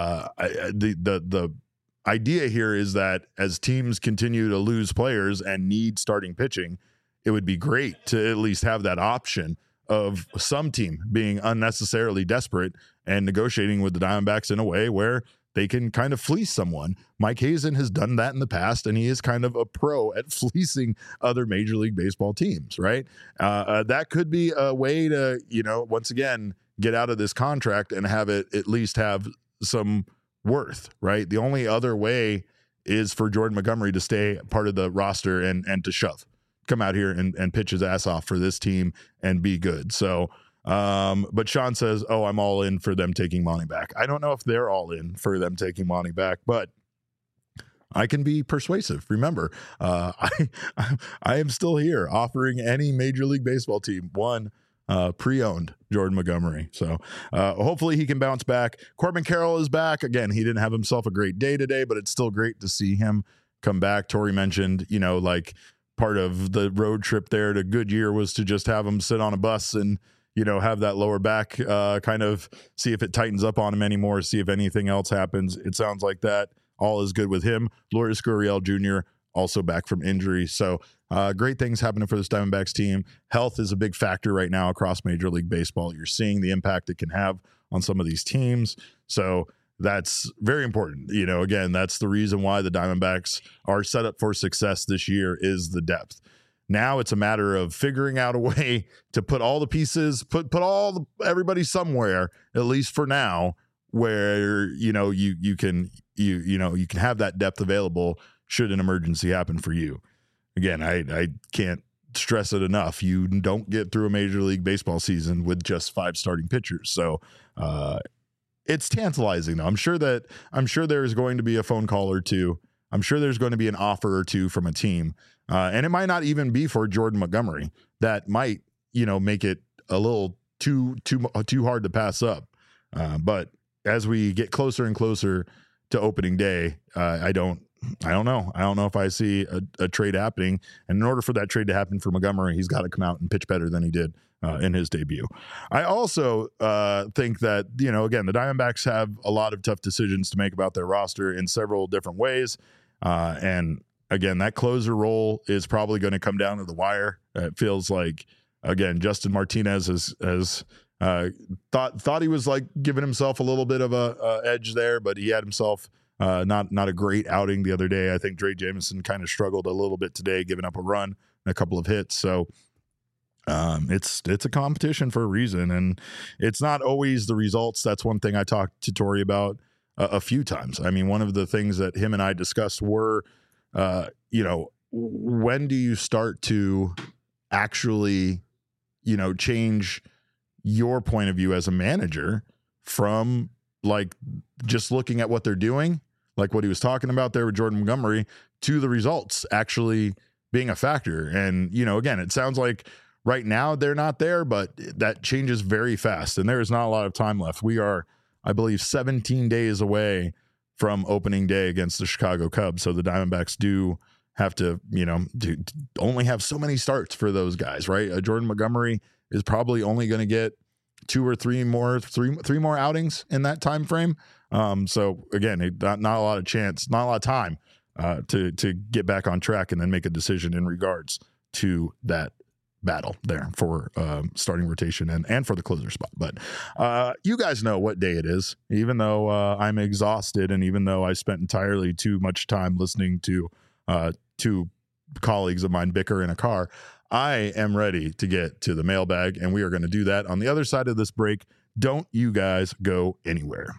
the idea here is that as teams continue to lose players and need starting pitching, it would be great to at least have that option of some team being unnecessarily desperate and negotiating with the Diamondbacks in a way where they can kind of fleece someone. Mike Hazen has done that in the past, and he is kind of a pro at fleecing other Major League Baseball teams, right? That could be a way to, once again, get out of this contract and have it at least have some worth, right? The only other way is for Jordan Montgomery to stay part of the roster and to come out here and pitch his ass off for this team and be good. So, but Sean says, I'm all in for them taking Monty back. I don't know if they're all in for them taking Monty back, but I can be persuasive. Remember, I am still here offering any Major League Baseball team one pre-owned Jordan Montgomery. So hopefully he can bounce back. Corbin Carroll is back. Again, he didn't have himself a great day today, but it's still great to see him come back. Tori mentioned, like part of the road trip there to Goodyear was to just have him sit on a bus and, have that lower back kind of see if it tightens up on him anymore, see if anything else happens. It sounds like that all is good with him. Lourdes Gurriel Jr. also back from injury. So great things happening for this Diamondbacks team. Health is a big factor right now across Major League Baseball. You're seeing the impact it can have on some of these teams. So that's very important. Again, that's the reason why the Diamondbacks are set up for success this year is the depth. Now it's a matter of figuring out a way to put all the pieces, put everybody somewhere, at least for now, where you can have that depth available should an emergency happen for you. Again, I can't stress it enough. You don't get through a Major League Baseball season with just 5 starting pitchers. So it's tantalizing though. I'm sure there's going to be a phone call or two. I'm sure there's going to be an offer or two from a team. And it might not even be for Jordan Montgomery. That might, make it a little too hard to pass up. But as we get closer and closer to opening day, I don't know. I don't know if I see a trade happening. And in order for that trade to happen for Montgomery, he's got to come out and pitch better than he did in his debut. I also think that, again, the Diamondbacks have a lot of tough decisions to make about their roster in several different ways. And again, that closer role is probably going to come down to the wire. It feels like, again, Justin Martinez has thought he was like giving himself a little bit of a edge there, but he had himself not a great outing the other day. I think Dre Jameson kind of struggled a little bit today, giving up a run and a couple of hits. So it's a competition for a reason, and it's not always the results. That's one thing I talked to Tori about a few times. I mean, one of the things that him and I discussed were, when do you start to actually, change your point of view as a manager from like just looking at what they're doing, like what he was talking about there with Jordan Montgomery, to the results actually being a factor. And, again, it sounds like right now they're not there, but that changes very fast. And there is not a lot of time left. We are, I believe, 17 days away from opening day against the Chicago Cubs. So the Diamondbacks do have to, only have so many starts for those guys, right? Jordan Montgomery is probably only going to get three more outings in that time frame. So again, not a lot of chance, not a lot of time to get back on track and then make a decision in regards to that battle there for starting rotation and for the closer spot. But you guys know what day it is, even though I'm exhausted, and even though I spent entirely too much time listening to two colleagues of mine bicker in a car. I am ready to get to the mailbag, and we are going to do that on the other side of this break. Don't you guys go anywhere.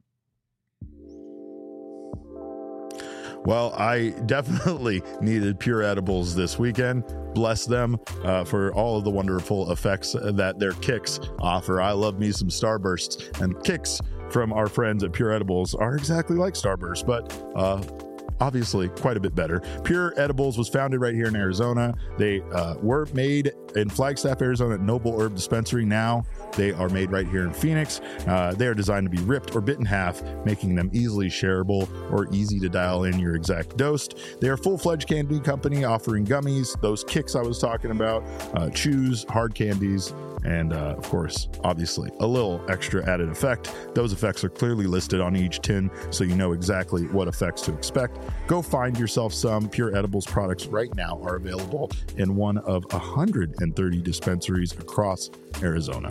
Well, I definitely needed Pure Edibles this weekend. Bless them for all of the wonderful effects that their kicks offer. I love me some Starbursts, and kicks from our friends at Pure Edibles are exactly like Starburst, but obviously quite a bit better. Pure Edibles was founded right here in Arizona. They were made in Flagstaff, Arizona at Noble Herb Dispensary. Now they are made right here in Phoenix. They are designed to be ripped or bit in half, making them easily shareable or easy to dial in your exact dose. They are a full-fledged candy company offering gummies, those kicks I was talking about, chews, hard candies, and of course, obviously, a little extra added effect. Those effects are clearly listed on each tin, so you know exactly what effects to expect. Go find yourself some. Pure Edibles products right now are available in one of 130 dispensaries across Arizona.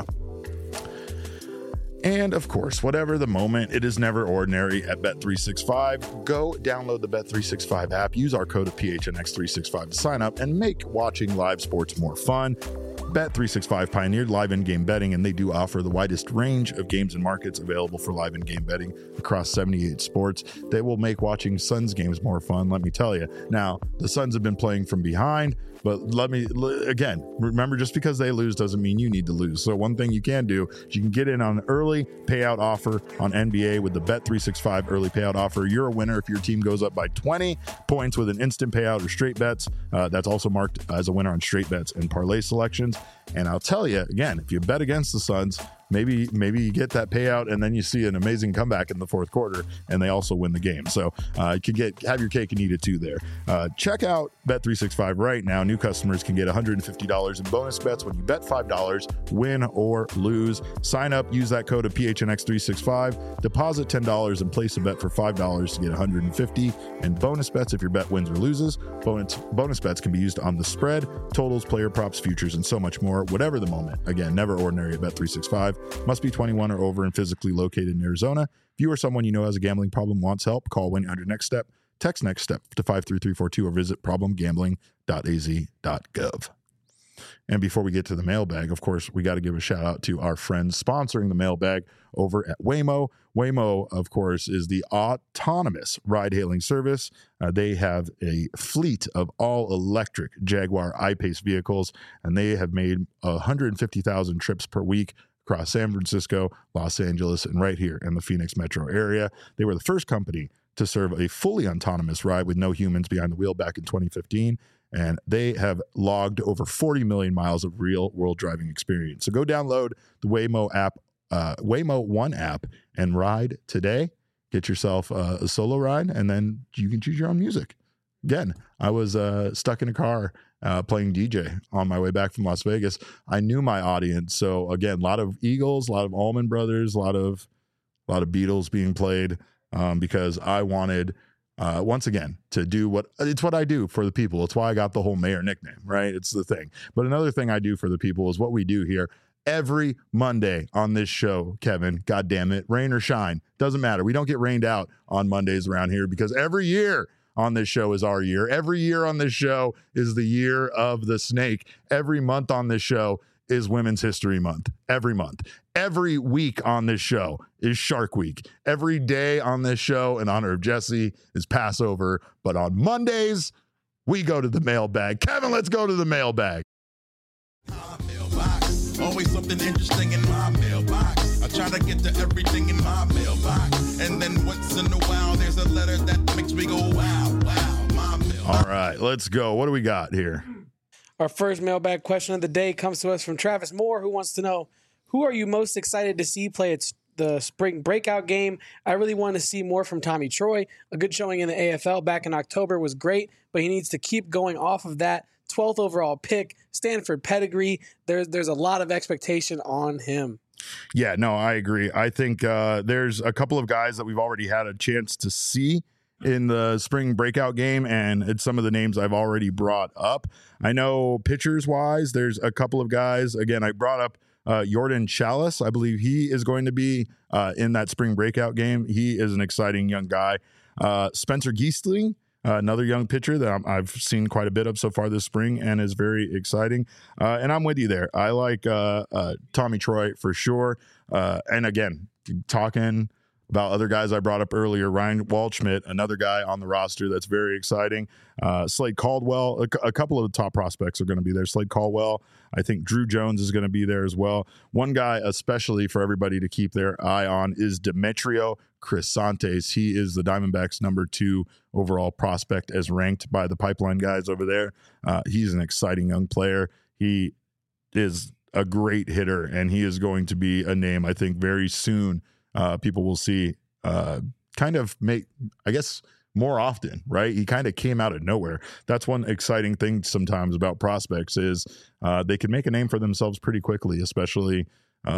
And of course, whatever the moment, it is never ordinary at Bet365. Go download the Bet365 app, use our code of PHNX365 to sign up and make watching live sports more fun. Bet365 pioneered live in-game betting, and they do offer the widest range of games and markets available for live in-game betting across 78 sports. They will make watching Suns games more fun, let me tell you. Now, the Suns have been playing from behind, but again, remember, just because they lose doesn't mean you need to lose. So one thing you can do is you can get in on an early payout offer on NBA with the Bet365 early payout offer. You're a winner if your team goes up by 20 points with an instant payout or straight bets. That's also marked as a winner on straight bets and parlay selections. And I'll tell you, again, if you bet against the Suns, maybe you get that payout and then you see an amazing comeback in the fourth quarter and they also win the game. So you can have your cake and eat it too there. Check out Bet365 right now. New customers can get $150 in bonus bets when you bet $5, win or lose. Sign up, use that code of PHNX365, deposit $10 and place a bet for $5 to get $150 in bonus bets if your bet wins or loses. Bonus bets can be used on the spread, totals, player props, futures, and so much more. Whatever the moment. Again, never ordinary at Bet365. Must be 21 or over and physically located in Arizona. If you or someone you know has a gambling problem wants help, call 1-800-NEXT-STEP, text NEXT STEP to 53342 or visit problemgambling.az.gov. And before we get to the mailbag, of course, we got to give a shout out to our friends sponsoring the mailbag over at Waymo. Waymo, of course, is the autonomous ride-hailing service. They have a fleet of all-electric Jaguar I-Pace vehicles, and they have made 150,000 trips per week across San Francisco, Los Angeles, and right here in the Phoenix metro area. They were the first company to serve a fully autonomous ride with no humans behind the wheel back in 2015. And they have logged over 40 million miles of real-world driving experience. So go download the Waymo app, Waymo One app, and ride today. Get yourself a solo ride, and then you can choose your own music. Again, I was stuck in a car playing DJ on my way back from Las Vegas. I knew my audience. So again, a lot of Eagles, a lot of Allman Brothers, a lot of Beatles being played because I wanted once again, to do what I do for the people. It's why I got the whole mayor nickname, right? It's the thing. But another thing I do for the people is what we do here every Monday on this show, Kevin. God damn it. Rain or shine. Doesn't matter. We don't get rained out on Mondays around here because every year on this show is our year. Every year on this show is the year of the snake. Every month on this show is Women's History Month. Every month. Every week on this show is Shark Week. Every day on this show, in honor of Jesse, is Passover. But on Mondays, we go to the mailbag. Kevin, let's go to the mailbag. My mailbox. Always something interesting in my mailbox. I try to get to everything in my mailbox. And then once in a while, there's a letter that makes me go, wow, wow, my mailbox. All right, let's go. What do we got here? Our first mailbag question of the day comes to us from Travis Moore, who wants to know, who are you most excited to see play at the spring breakout game? I really want to see more from Tommy Troy. A good showing in the AFL back in October was great, but he needs to keep going off of that. 12th overall pick, Stanford pedigree. There's a lot of expectation on him. Yeah, no, I agree. I think there's a couple of guys that we've already had a chance to see in the spring breakout game, and it's some of the names I've already brought up. I know pitchers wise, there's a couple of guys. Again, I brought up Jordan Chalice. I believe he is going to be in that spring breakout game. He is an exciting young guy. Spencer Giestling, another young pitcher that I've seen quite a bit of so far this spring and is very exciting. And I'm with you there. I like Tommy Troy for sure. And again, talking about other guys I brought up earlier, Ryan Waldschmidt, another guy on the roster that's very exciting. Slade Caldwell, a couple of the top prospects are going to be there. Slade Caldwell, I think Drew Jones is going to be there as well. One guy, especially for everybody to keep their eye on, is Demetrio Crisantes. He is the Diamondbacks' number 2 overall prospect as ranked by the Pipeline guys over there. He's an exciting young player. He is a great hitter, and he is going to be a name, I think, very soon. People will see kind of make, I guess, more often, right? He kind of came out of nowhere. That's one exciting thing sometimes about prospects is they can make a name for themselves pretty quickly, especially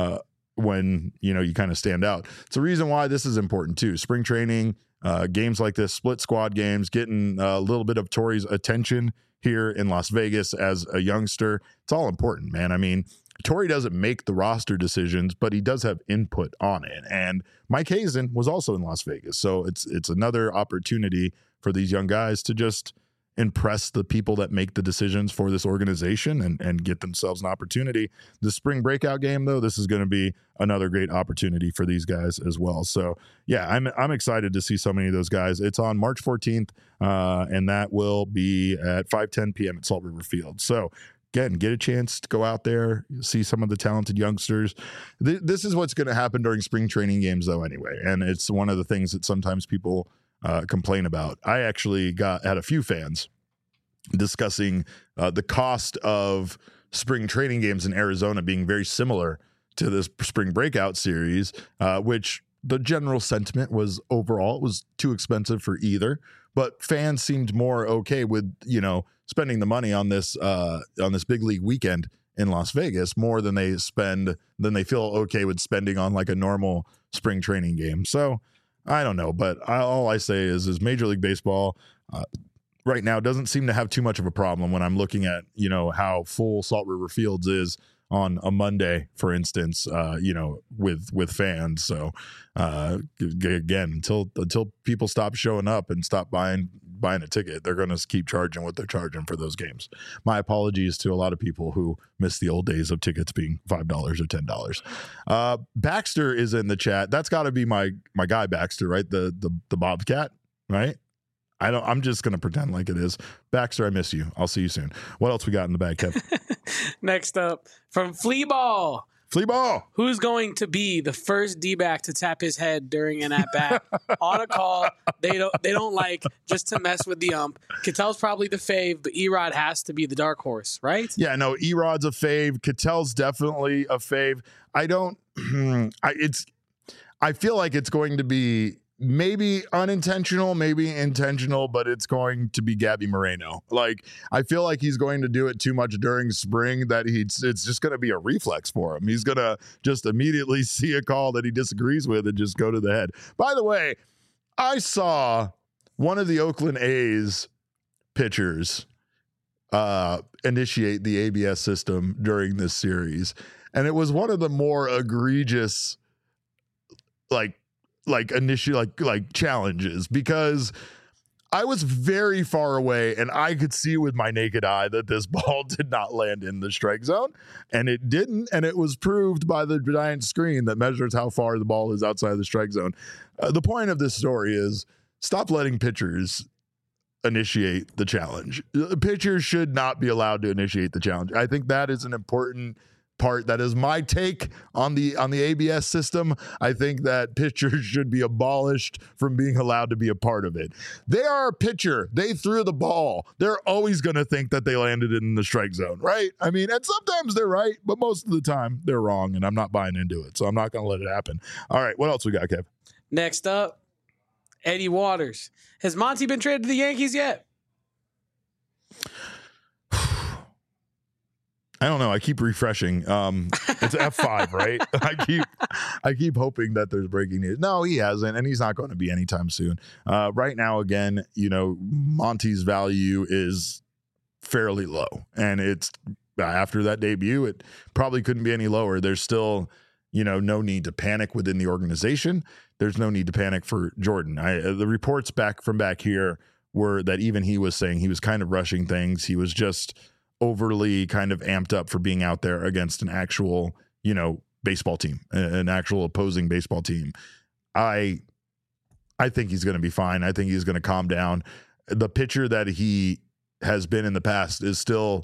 when, you kind of stand out. It's a reason why this is important too. Spring training, games like this, split squad games, getting a little bit of Torey's attention here in Las Vegas as a youngster. It's all important, man. I mean, Torey doesn't make the roster decisions, but he does have input on it. And Mike Hazen was also in Las Vegas. So it's another opportunity for these young guys to just impress the people that make the decisions for this organization and get themselves an opportunity. The spring breakout game, though, this is going to be another great opportunity for these guys as well. So, yeah, I'm excited to see so many of those guys. It's on March 14th, and that will be at 5:10 p.m. at Salt River Field. So, again, get a chance to go out there, see some of the talented youngsters. This is what's going to happen during spring training games, though, anyway. And it's one of the things that sometimes people complain about. I actually had a few fans discussing the cost of spring training games in Arizona being very similar to this spring breakout series, which the general sentiment was overall it was too expensive for either. But fans seemed more okay with, spending the money on this big league weekend in Las Vegas more than they feel okay with spending on like a normal spring training game. So I don't know, but all I say is Major League Baseball right now doesn't seem to have too much of a problem when I'm looking at, how full Salt River Fields is on a Monday, for instance, with fans. So again, until people stop showing up and stop buying a ticket, they're going to keep charging what they're charging for those games. My apologies to a lot of people who miss the old days of tickets being $5 or $10. Baxter is in the chat. That's got to be my guy Baxter, right? The Bobcat, right? I'm just going to pretend like it is. Baxter, I miss you. I'll see you soon. What else we got in the bag, Kev? Next up, from Fleaball. Fleaball. Who's going to be the first D-back to tap his head during an at-bat on a call they don't like just to mess with the ump? Ketel's probably the fave, but Erod has to be the dark horse, right? Yeah, no, Erod's a fave. Ketel's definitely a fave. I feel like it's going to be maybe unintentional, maybe intentional, but it's going to be Gabby Moreno. Like, I feel like he's going to do it too much during spring that it's just going to be a reflex for him. He's going to just immediately see a call that he disagrees with and just go to the head. By the way, I saw one of the Oakland A's pitchers initiate the ABS system during this series, and it was one of the more egregious challenges, because I was very far away and I could see with my naked eye that this ball did not land in the strike zone, and it didn't. And it was proved by the giant screen that measures how far the ball is outside the strike zone. The point of this story is stop letting pitchers initiate the challenge. Pitchers should not be allowed to initiate the challenge. I think that is an important part. That is my take on the ABS system. I think that pitchers should be abolished from being allowed to be a part of it. They are a pitcher. They threw the ball. They're always going to think that they landed in the strike zone, right? I mean, and sometimes they're right, but most of the time they're wrong, and I'm not buying into it, so I'm not going to let it happen. All right, what else we got, Kev? Next up, Eddie Waters. Has Monty been traded to the Yankees yet? I don't know. I keep refreshing. It's F5, right? I keep hoping that there's breaking news. No, he hasn't, and he's not going to be anytime soon. Right now, again, Monty's value is fairly low, and it's after that debut, it probably couldn't be any lower. There's still, no need to panic within the organization. There's no need to panic for Jordan. The reports back here were that even he was saying he was kind of rushing things. He was just overly kind of amped up for being out there against an actual, baseball team, an actual opposing baseball team. I think he's going to be fine. I think he's going to calm down. The pitcher that he has been in the past is still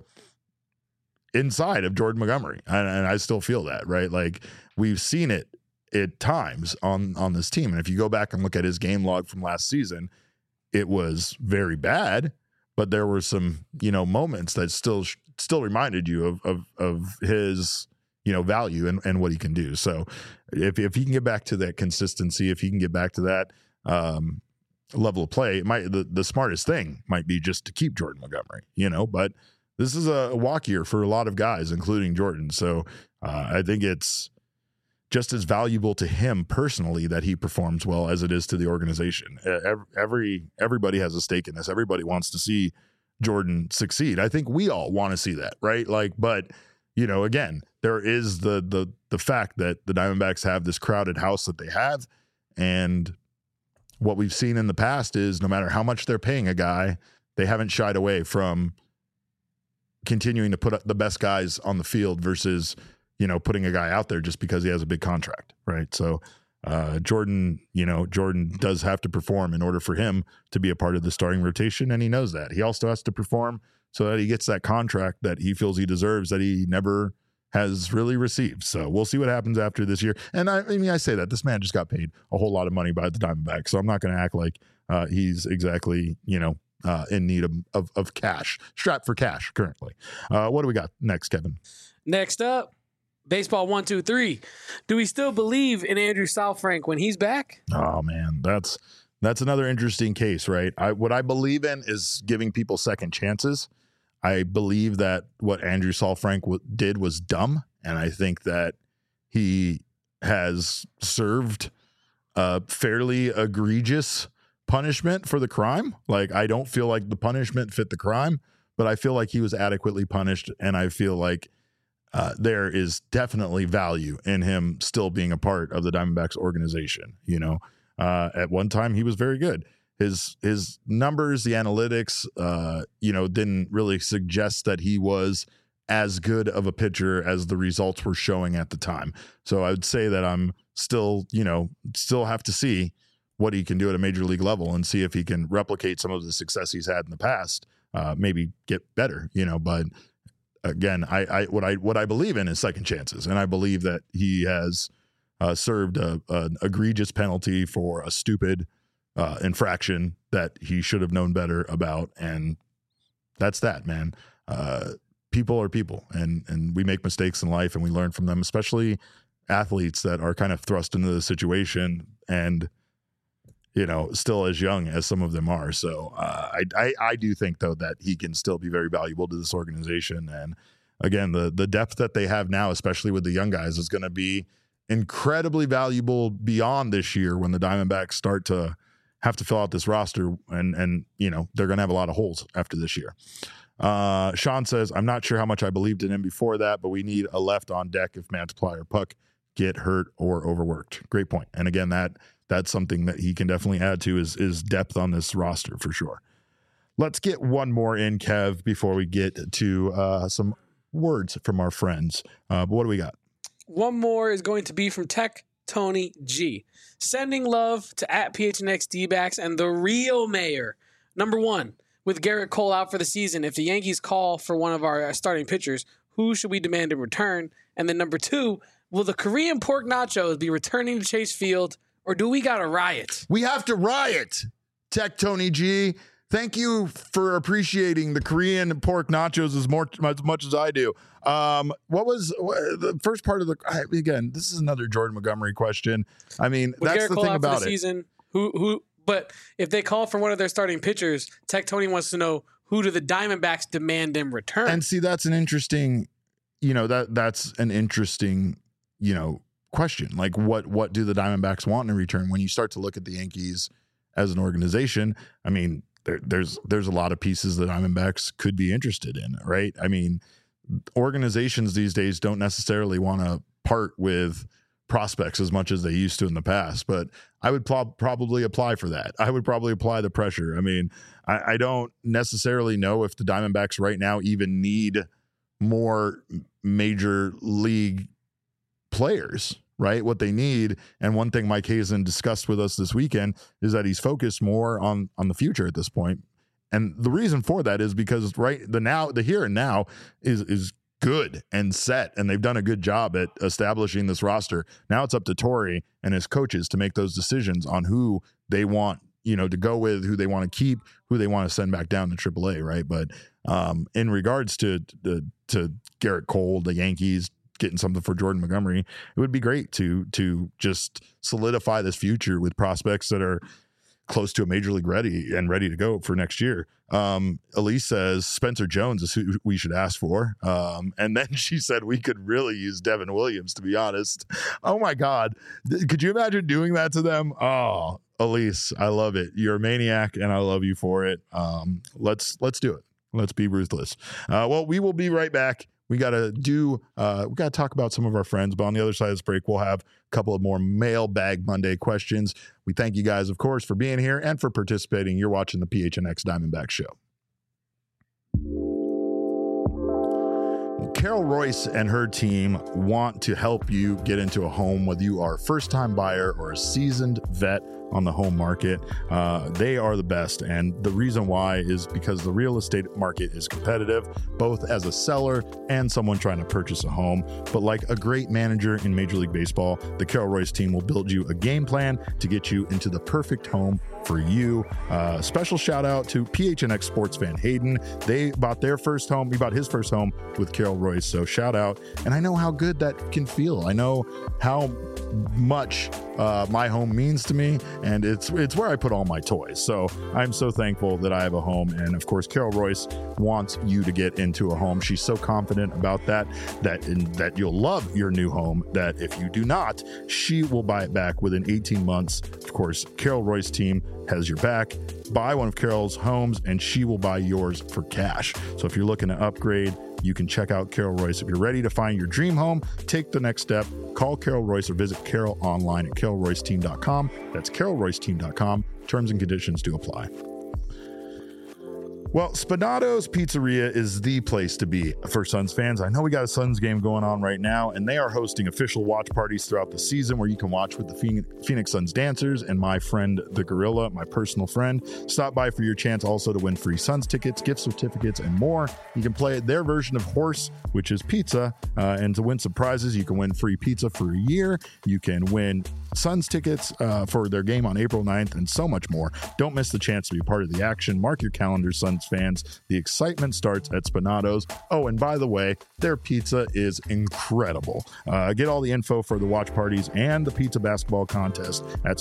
inside of Jordan Montgomery. And I still feel that, right? Like, we've seen it at times on this team. And if you go back and look at his game log from last season, it was very bad. But there were some, moments that still reminded you of his, value and what he can do. So if he can get back to that consistency, if he can get back to that level of play, the smartest thing might be just to keep Jordan Montgomery, But this is a walk year for a lot of guys, including Jordan. So I think it's just as valuable to him personally that he performs well as it is to the organization. Everybody has a stake in this. Everybody wants to see Jordan succeed. I think we all want to see that, right? But again, there is the fact that the Diamondbacks have this crowded house that they have, and what we've seen in the past is no matter how much they're paying a guy, they haven't shied away from continuing to put the best guys on the field versus putting a guy out there just because he has a big contract, right? So Jordan does have to perform in order for him to be a part of the starting rotation, and he knows that. He also has to perform so that he gets that contract that he feels he deserves that he never has really received. So we'll see what happens after this year. And I say that this man just got paid a whole lot of money by the Diamondbacks, so I'm not going to act like he's exactly, in need of cash, strapped for cash currently. What do we got next, Kevin? Next up, Baseball 1-2-3. Do we still believe in Andrew Saalfrank when he's back? Oh man, that's another interesting case, right? What I believe in is giving people second chances. I believe that what Andrew Saalfrank did was dumb, and I think that he has served a fairly egregious punishment for the crime. Like, I don't feel like the punishment fit the crime, but I feel like he was adequately punished, and I feel like there is definitely value in him still being a part of the Diamondbacks organization. At one time he was very good. His numbers, the analytics, didn't really suggest that he was as good of a pitcher as the results were showing at the time. So I would say that I'm still have to see what he can do at a major league level and see if he can replicate some of the success he's had in the past, maybe get better, but again, what I believe in is second chances, and I believe that he has served an egregious penalty for a stupid infraction that he should have known better about, and that's that, man. People are people, and we make mistakes in life, and we learn from them, especially athletes that are kind of thrust into the situation and still as young as some of them are. So I do think, though, that he can still be very valuable to this organization. And again, the depth that they have now, especially with the young guys, is going to be incredibly valuable beyond this year when the Diamondbacks start to have to fill out this roster, and you know, they're going to have a lot of holes after this year. Sean says, I'm not sure how much I believed in him before that, but we need a left on deck if Mantiply or Puck get hurt or overworked. Great point. And again, that's something that he can definitely add to is depth on this roster for sure. Let's get one more in, Kev, before we get to some words from our friends. But what do we got? One more is going to be from Tech Tony G. Sending love to @PHNX D-backs and the real mayor. Number one, with Garrett Cole out for the season, if the Yankees call for one of our starting pitchers, who should we demand in return? And then number two, will the Korean pork nachos be returning to Chase Field, or do we got to riot? We have to riot, Tech Tony G. Thank you for appreciating the Korean pork nachos as much as I do. What was the first part of again, this is another Jordan Montgomery question. I mean, with that's Garrett the Cole thing out about for the it. season, but if they call for one of their starting pitchers, Tech Tony wants to know, who do the Diamondbacks demand in return? And see, that's an interesting, that's an interesting, question. Like what do the Diamondbacks want in return? When you start to look at the Yankees as an organization, I mean, there's a lot of pieces that Diamondbacks could be interested in, right? I mean, organizations these days don't necessarily want to part with prospects as much as they used to in the past, but I would probably apply for that. I would probably apply the pressure. I mean, I don't necessarily know if the Diamondbacks right now even need more major league players, right? What they need, and one thing Mike Hazen discussed with us this weekend, is that he's focused more on the future at this point. And the reason for that is because the here and now is good and set, and they've done a good job at establishing this roster. Now it's up to Torey and his coaches to make those decisions on who they want, to go with, who they want to keep, who they want to send back down to AAA, right? But in regards to Garrett Cole, the Yankees getting something for Jordan Montgomery, it would be great to just solidify this future with prospects that are close to a major league ready to go for next year. Elise says Spencer Jones is who we should ask for. And then she said we could really use Devin Williams, to be honest. Oh my God. Could you imagine doing that to them? Oh, Elise, I love it. You're a maniac and I love you for it. Let's do it. Let's be ruthless. Well, we will be right back. We got to talk about some of our friends, but on the other side of this break, we'll have a couple of more Mailbag Monday questions. We thank you guys, of course, for being here and for participating. You're watching the PHNX Diamondback Show. Carol Royce and her team want to help you get into a home, whether you are a first-time buyer or a seasoned vet on the home market. They are the best, and the reason why is because the real estate market is competitive, both as a seller and someone trying to purchase a home. But like a great manager in Major League Baseball, the Carol Royce team will build you a game plan to get you into the perfect home for you. Special shout out to PHNX sports fan Hayden. They bought their first home. He bought his first home with Carol Royce. So shout out. And I know how good that can feel. I know how much my home means to me, and it's where I put all my toys. So I'm so thankful that I have a home. And of course, Carol Royce wants you to get into a home. She's so confident about that you'll love your new home, that if you do not, she will buy it back within 18 months. Of course, Carol Royce team has your back. Buy one of Carol's homes and she will buy yours for cash. So if you're looking to upgrade, you can check out Carol Royce. If you're ready to find your dream home, take the next step. Call Carol Royce or visit Carol online at carolroyceteam.com. That's carolroyceteam.com. Terms and conditions do apply. Well, Spinato's Pizzeria is the place to be for Suns fans. I know we got a Suns game going on right now, and they are hosting official watch parties throughout the season where you can watch with the Phoenix Suns dancers and my friend, the Gorilla, my personal friend. Stop by for your chance also to win free Suns tickets, gift certificates, and more. You can play their version of Horse, which is pizza, and to win some prizes, you can win free pizza for a year. You can win Suns tickets for their game on April 9th and so much more. Don't miss the chance to be part of the action. Mark your calendars, Suns fans. The excitement starts at Spinato's. Oh, and by the way, their pizza is incredible. Get all the info for the watch parties and the pizza basketball contest at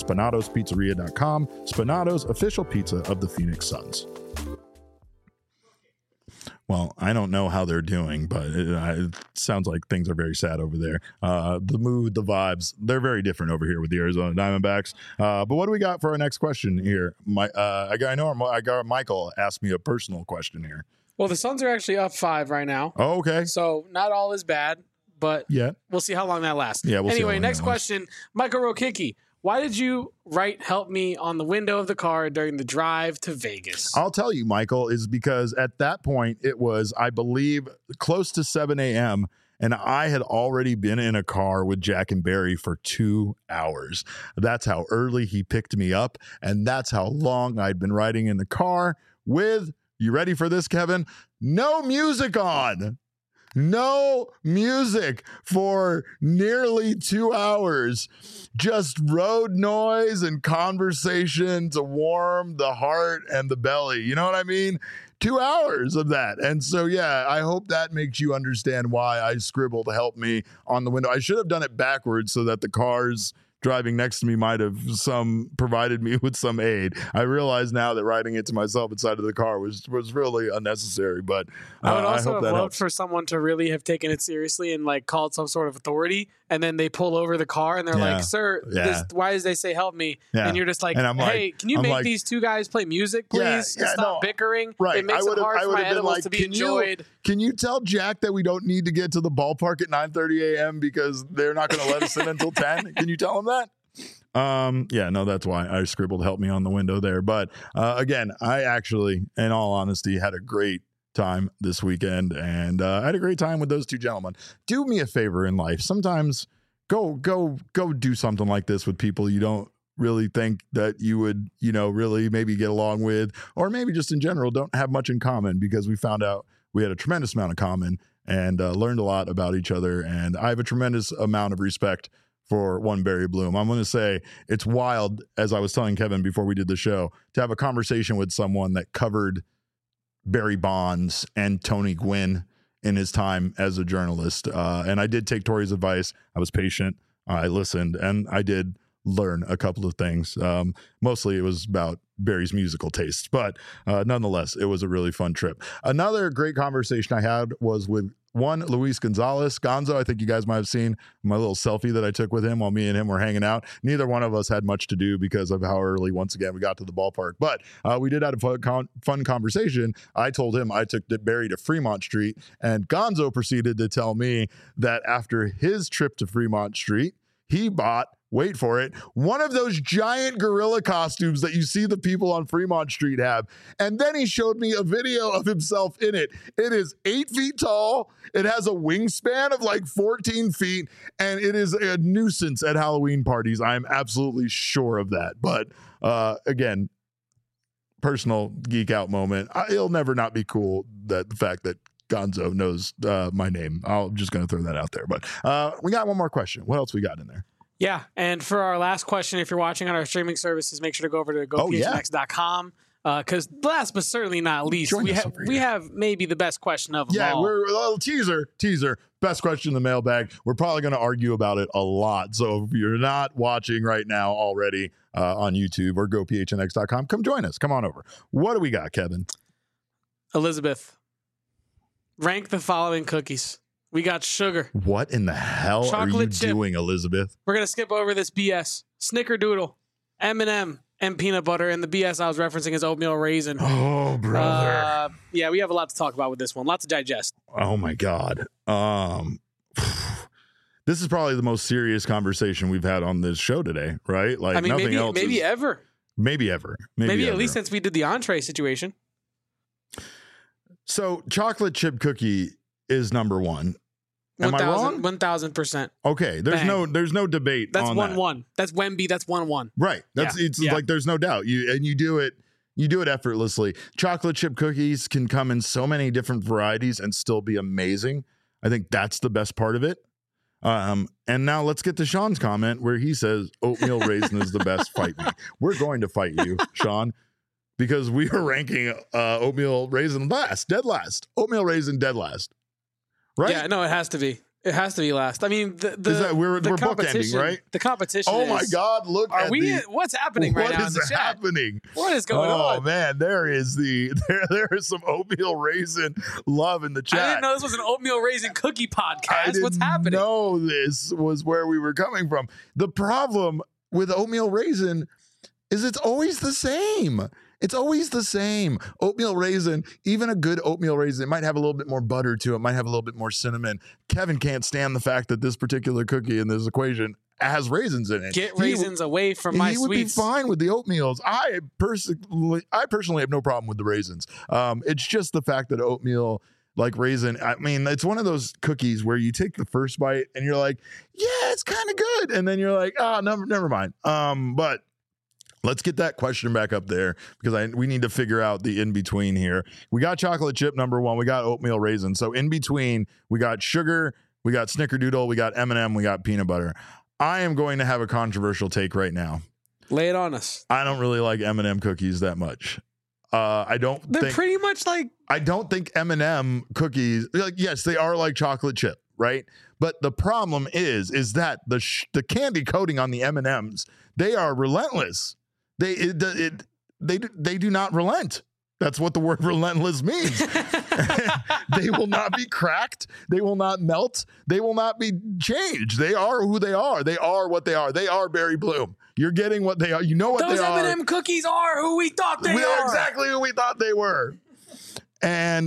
spinatospizzeria.com. Spinato's, official pizza of the Phoenix Suns. Well, I don't know how they're doing, but it sounds like things are very sad over there. The mood, the vibes, they're very different over here with the Arizona Diamondbacks. But what do we got for our next question here? I got Michael asked me a personal question here. Well, the Suns are actually up 5 right now. Oh, okay. So not all is bad, but we'll see how long that lasts. Yeah, anyway, next question. Michael Rokicki. Why did you write "Help Me" on the window of the car during the drive to Vegas? I'll tell you, Michael, is because at that point it was, I believe, close to 7 a.m., and I had already been in a car with Jack and Barry for 2 hours. That's how early he picked me up, and that's how long I'd been riding in the car with, you ready for this, Kevin? No music on. No music for nearly 2 hours. Just road noise and conversation to warm the heart and the belly. You know what I mean? 2 hours of that. And so, yeah, I hope that makes you understand why I scribbled "Help Me" on the window. I should have done it backwards so that the cars driving next to me might have provided me with some aid. I realize now that writing it to myself inside of the car was really unnecessary, but I would also hope have that loved helps. for someone to really have taken it seriously and like called some sort of authority, and then they pull over the car and they're Yeah. like, "Sir, why does they say help me?" Yeah. And you're just like, And I'm "Hey, like- can you I'm make like- these two guys play music, please? Yeah, and stop no, bickering. right. It makes it hard for my been edibles like, to be enjoyed." Can you tell Jack that we don't need to get to the ballpark at 9:30 a.m. because they're not going to let us in until 10? Can you tell him that? Yeah, no, that's why I scribbled "Help Me" on the window there. But again, I actually, in all honesty, had a great time this weekend, and I had a great time with those two gentlemen. Do me a favor in life. Sometimes go do something like this with people you don't really think that you would, really maybe get along with, or maybe just in general don't have much in common, because we found out we had a tremendous amount of common and learned a lot about each other. And I have a tremendous amount of respect for one Barry Bloom. I'm going to say it's wild, as I was telling Kevin before we did the show, to have a conversation with someone that covered Barry Bonds and Tony Gwynn in his time as a journalist. And I did take Tori's advice. I was patient. I listened, and I did learn a couple of things. Mostly it was about Barry's musical tastes, but nonetheless, it was a really fun trip. Another great conversation I had was with Luis Gonzalez. Gonzo, I think you guys might have seen my little selfie that I took with him while me and him were hanging out. Neither one of us had much to do because of how early, once again, we got to the ballpark. But we did have a fun conversation. I told him I took Barry to Fremont Street, and Gonzo proceeded to tell me that after his trip to Fremont Street, he bought, wait for it, one of those giant gorilla costumes that you see the people on Fremont Street have. And then he showed me a video of himself in it. It is 8 feet tall. It has a wingspan of like 14 feet. And it is a nuisance at Halloween parties. I am absolutely sure of that. But again, personal geek out moment. It'll never not be cool that the fact that Gonzo knows my name. I'm just going to throw that out there. But we got one more question. What else we got in there? Yeah, and for our last question, if you're watching on our streaming services, make sure to go over to gophnx.com. Because last but certainly not least, we have maybe the best question of them all. We're a little teaser. Best question in the mailbag. We're probably going to argue about it a lot. So if you're not watching right now already on YouTube or gophnx.com, come join us. Come on over. What do we got, Kevin? Elizabeth, rank the following cookies. We got sugar. What in the hell Chocolate are you chip. doing, Elizabeth? We're going to skip over this BS. Snickerdoodle, M&M, and peanut butter. And the BS I was referencing is oatmeal raisin. Oh, brother. Yeah, we have a lot to talk about with this one. Lots to digest. Oh, my God. This is probably the most serious conversation we've had on this show today, right? Like, I mean, nothing else maybe is, ever. Maybe ever. Maybe ever. at least since we did the entree situation. So chocolate chip cookie is number one. Am I wrong? 1,000%. Okay, there's no debate. That's on 1-1. That's Wemby. That's 1-1. Right. It's like there's no doubt. You do it effortlessly. Chocolate chip cookies can come in so many different varieties and still be amazing. I think that's the best part of it. And now let's get to Sean's comment where he says oatmeal raisin is the best. Fight me. We're going to fight you, Sean, because we are ranking oatmeal raisin dead last. Oatmeal raisin dead last. Right? Yeah, no, it has to be. It has to be last. I mean, we're bookending, right? The competition. Oh my God! Look, what's happening right now in the chat? What is happening? What is going on? Oh man, there is some oatmeal raisin love in the chat. I didn't know this was an oatmeal raisin cookie podcast. What's happening? No, this was where we were coming from. The problem with oatmeal raisin is it's always the same. It's always the same. Oatmeal raisin, even a good oatmeal raisin, it might have a little bit more butter to it, might have a little bit more cinnamon. Kevin can't stand the fact that this particular cookie in this equation has raisins in it. Get raisins away from my sweets. He would be fine with the oatmeals. I personally have no problem with the raisins. It's just the fact that oatmeal, like raisin, I mean, it's one of those cookies where you take the first bite and you're like, yeah, it's kind of good. And then you're like, oh, never mind. But let's get that question back up there because we need to figure out the in-between here. We got chocolate chip number one. We got oatmeal raisin. So in between, we got sugar, we got snickerdoodle, we got M&M, we got peanut butter. I am going to have a controversial take right now. Lay it on us. I don't really like M&M cookies that much. They're pretty much like... I don't think M&M cookies... Like, yes, they are like chocolate chip, right? But the problem is that the candy coating on the M&Ms, they are relentless. They do not relent. That's what the word relentless means. They will not be cracked. They will not melt. They will not be changed. They are who they are. They are what they are. They are Berry Bloom. You're getting what they are. You know what they are. Those M&M cookies are who we thought they are. We are exactly who we thought they were. And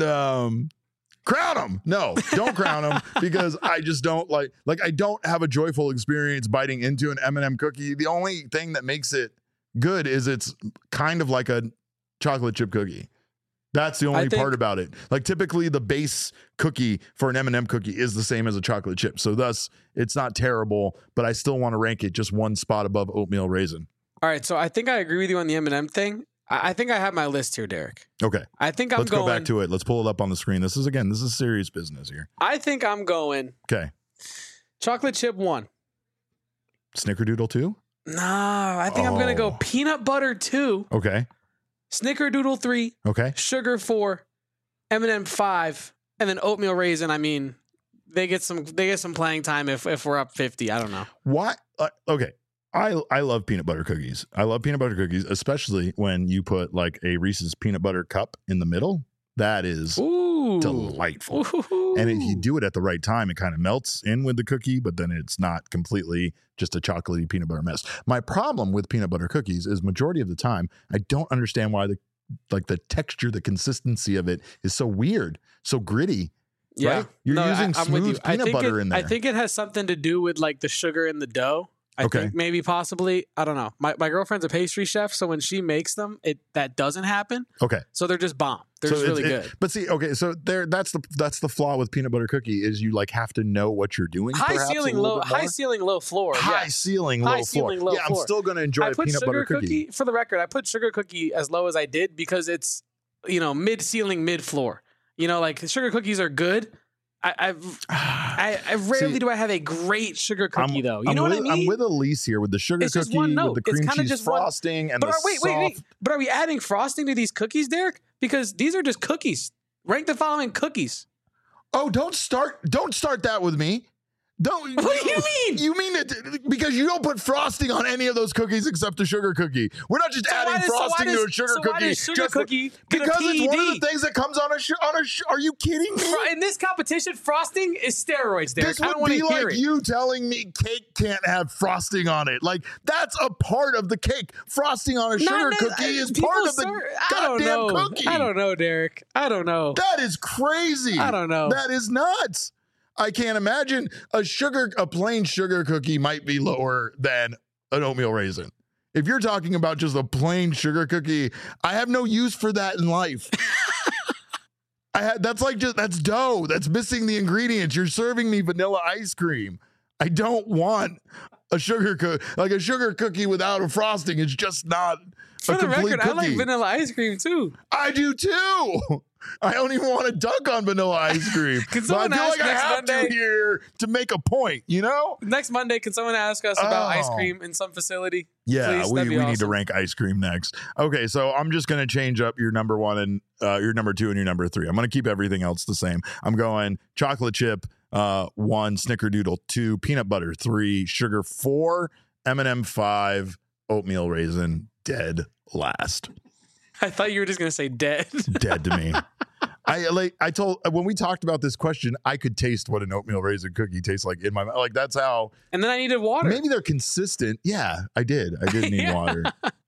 crown them. No, don't crown them because I just don't like I don't have a joyful experience biting into an M&M cookie. The only thing that makes it good is it's kind of like a chocolate chip cookie. That's the only part about it. Like typically the base cookie for an M&M cookie is the same as a chocolate chip. So thus it's not terrible, but I still want to rank it just one spot above oatmeal raisin. All right. So I think I agree with you on the M&M thing. I think I have my list here, Derek. Okay. I think Let's go back to it. Let's pull it up on the screen. This is serious business here. I think I'm going. Okay. Chocolate chip 1. Snickerdoodle 2? Nah, I think I'm going to go peanut butter 2. Okay. Snickerdoodle 3. Okay. Sugar 4. M&M 5. And then oatmeal raisin. I mean, they get some playing time if we're up 50. I don't know. What? Okay. I love peanut butter cookies. I love peanut butter cookies, especially when you put like a Reese's peanut butter cup in the middle. That is delightful. Ooh. And if you do it at the right time, it kind of melts in with the cookie, but then it's not completely just a chocolatey peanut butter mess. My problem with peanut butter cookies is majority of the time, I don't understand why the texture, the consistency of it is so weird, so gritty. Yeah. Right? You're using smooth peanut butter in there. I think it has something to do with like the sugar in the dough. I think maybe possibly, I don't know. My girlfriend's a pastry chef, so when she makes them, that doesn't happen. Okay. So they're just bomb. They're just really good. But see, okay, so that's the flaw with peanut butter cookie is you like have to know what you're doing. High ceiling, low floor. High ceiling, low floor. Yeah, I'm still going to enjoy a peanut butter cookie. For the record, I put sugar cookie as low as I did because it's, mid ceiling, mid floor. Like sugar cookies are good. I rarely do I have a great sugar cookie though. You know what I mean? I'm with Elise here with the sugar cookie, with the cream cheese frosting, and wait. But are we adding frosting to these cookies, Derek? Because these are just cookies. Rank the following cookies. Oh, don't start that with me. Don't. What do you mean? You mean it because you don't put frosting on any of those cookies except the sugar cookie. We're not just adding frosting to a sugar cookie. Why does sugar cookie because it's one of the things that comes on a. Are you kidding me? In this competition, frosting is steroids, Derek. This would be like you telling me cake can't have frosting on it. Like that's a part of the cake. Frosting on a sugar cookie is part of the goddamn cookie. I don't know, Derek. I don't know. That is crazy. I don't know. That is nuts. I can't imagine a plain sugar cookie might be lower than an oatmeal raisin. If you're talking about just a plain sugar cookie, I have no use for that in life. That's dough. That's missing the ingredients. You're serving me vanilla ice cream. I don't want a sugar cookie. Like a sugar cookie without a frosting is just not for a the complete record, cookie. I like vanilla ice cream too. I do too. I don't even want to dunk on vanilla ice cream. But I feel like I have to here to make a point, Next Monday, can someone ask us about ice cream in some facility? Yeah, please? we need to rank ice cream next. Okay, so I'm just going to change up your number 1 and your number 2 and your number 3. I'm going to keep everything else the same. I'm going chocolate chip, 1, Snickerdoodle 2, Peanut Butter 3, Sugar 4, M&M 5, Oatmeal Raisin dead last. I thought you were just gonna say dead. Dead to me. I told when we talked about this question, I could taste what an oatmeal raisin cookie tastes like in my mouth. Like that's how. And then I needed water. Maybe they're consistent. Yeah, I did need water.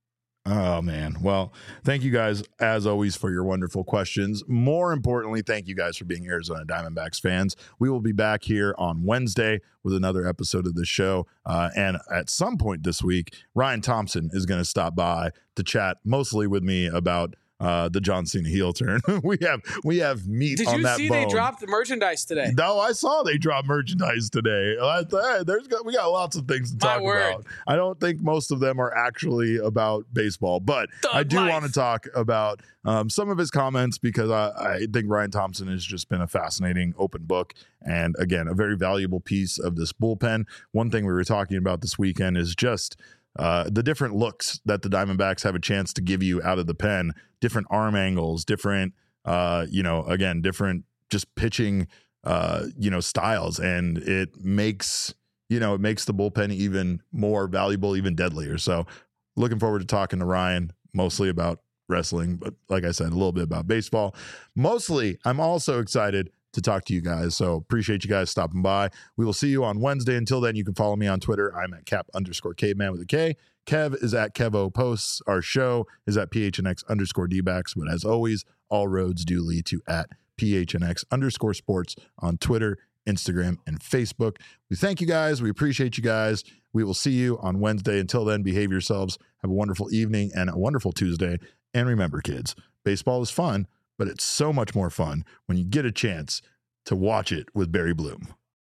Oh man. Well, thank you guys as always for your wonderful questions. More importantly, thank you guys for being Arizona Diamondbacks fans. We will be back here on Wednesday with another episode of the show. And at some point this week, Ryan Thompson is going to stop by to chat mostly with me about the John Cena heel turn. we have meat on that bone. Did you see they dropped the merchandise today? No, I saw they dropped merchandise today. We got lots of things to talk about. I don't think most of them are actually about baseball, but I do want to talk about some of his comments because I think Ryan Thompson has just been a fascinating open book and, again, a very valuable piece of this bullpen. One thing we were talking about this weekend is just the different looks that the Diamondbacks have a chance to give you out of the pen, different arm angles, different, different just pitching, styles. And it makes the bullpen even more valuable, even deadlier. So looking forward to talking to Ryan, mostly about wrestling, but like I said, a little bit about baseball. Mostly, I'm also excited to talk to you guys. So appreciate you guys stopping by. We will see you on Wednesday. Until then, you can follow me on Twitter. I'm at Cap_caveman with a K. Kev is at Kevo Posts. Our show is at PHNX_DBacks. But as always, all roads do lead to at PHNX_sports on Twitter, Instagram, and Facebook. We thank you guys. We appreciate you guys. We will see you on Wednesday. Until then, behave yourselves. Have a wonderful evening and a wonderful Tuesday. And remember, kids, baseball is fun, but it's so much more fun when you get a chance to watch it with Barry Bloom.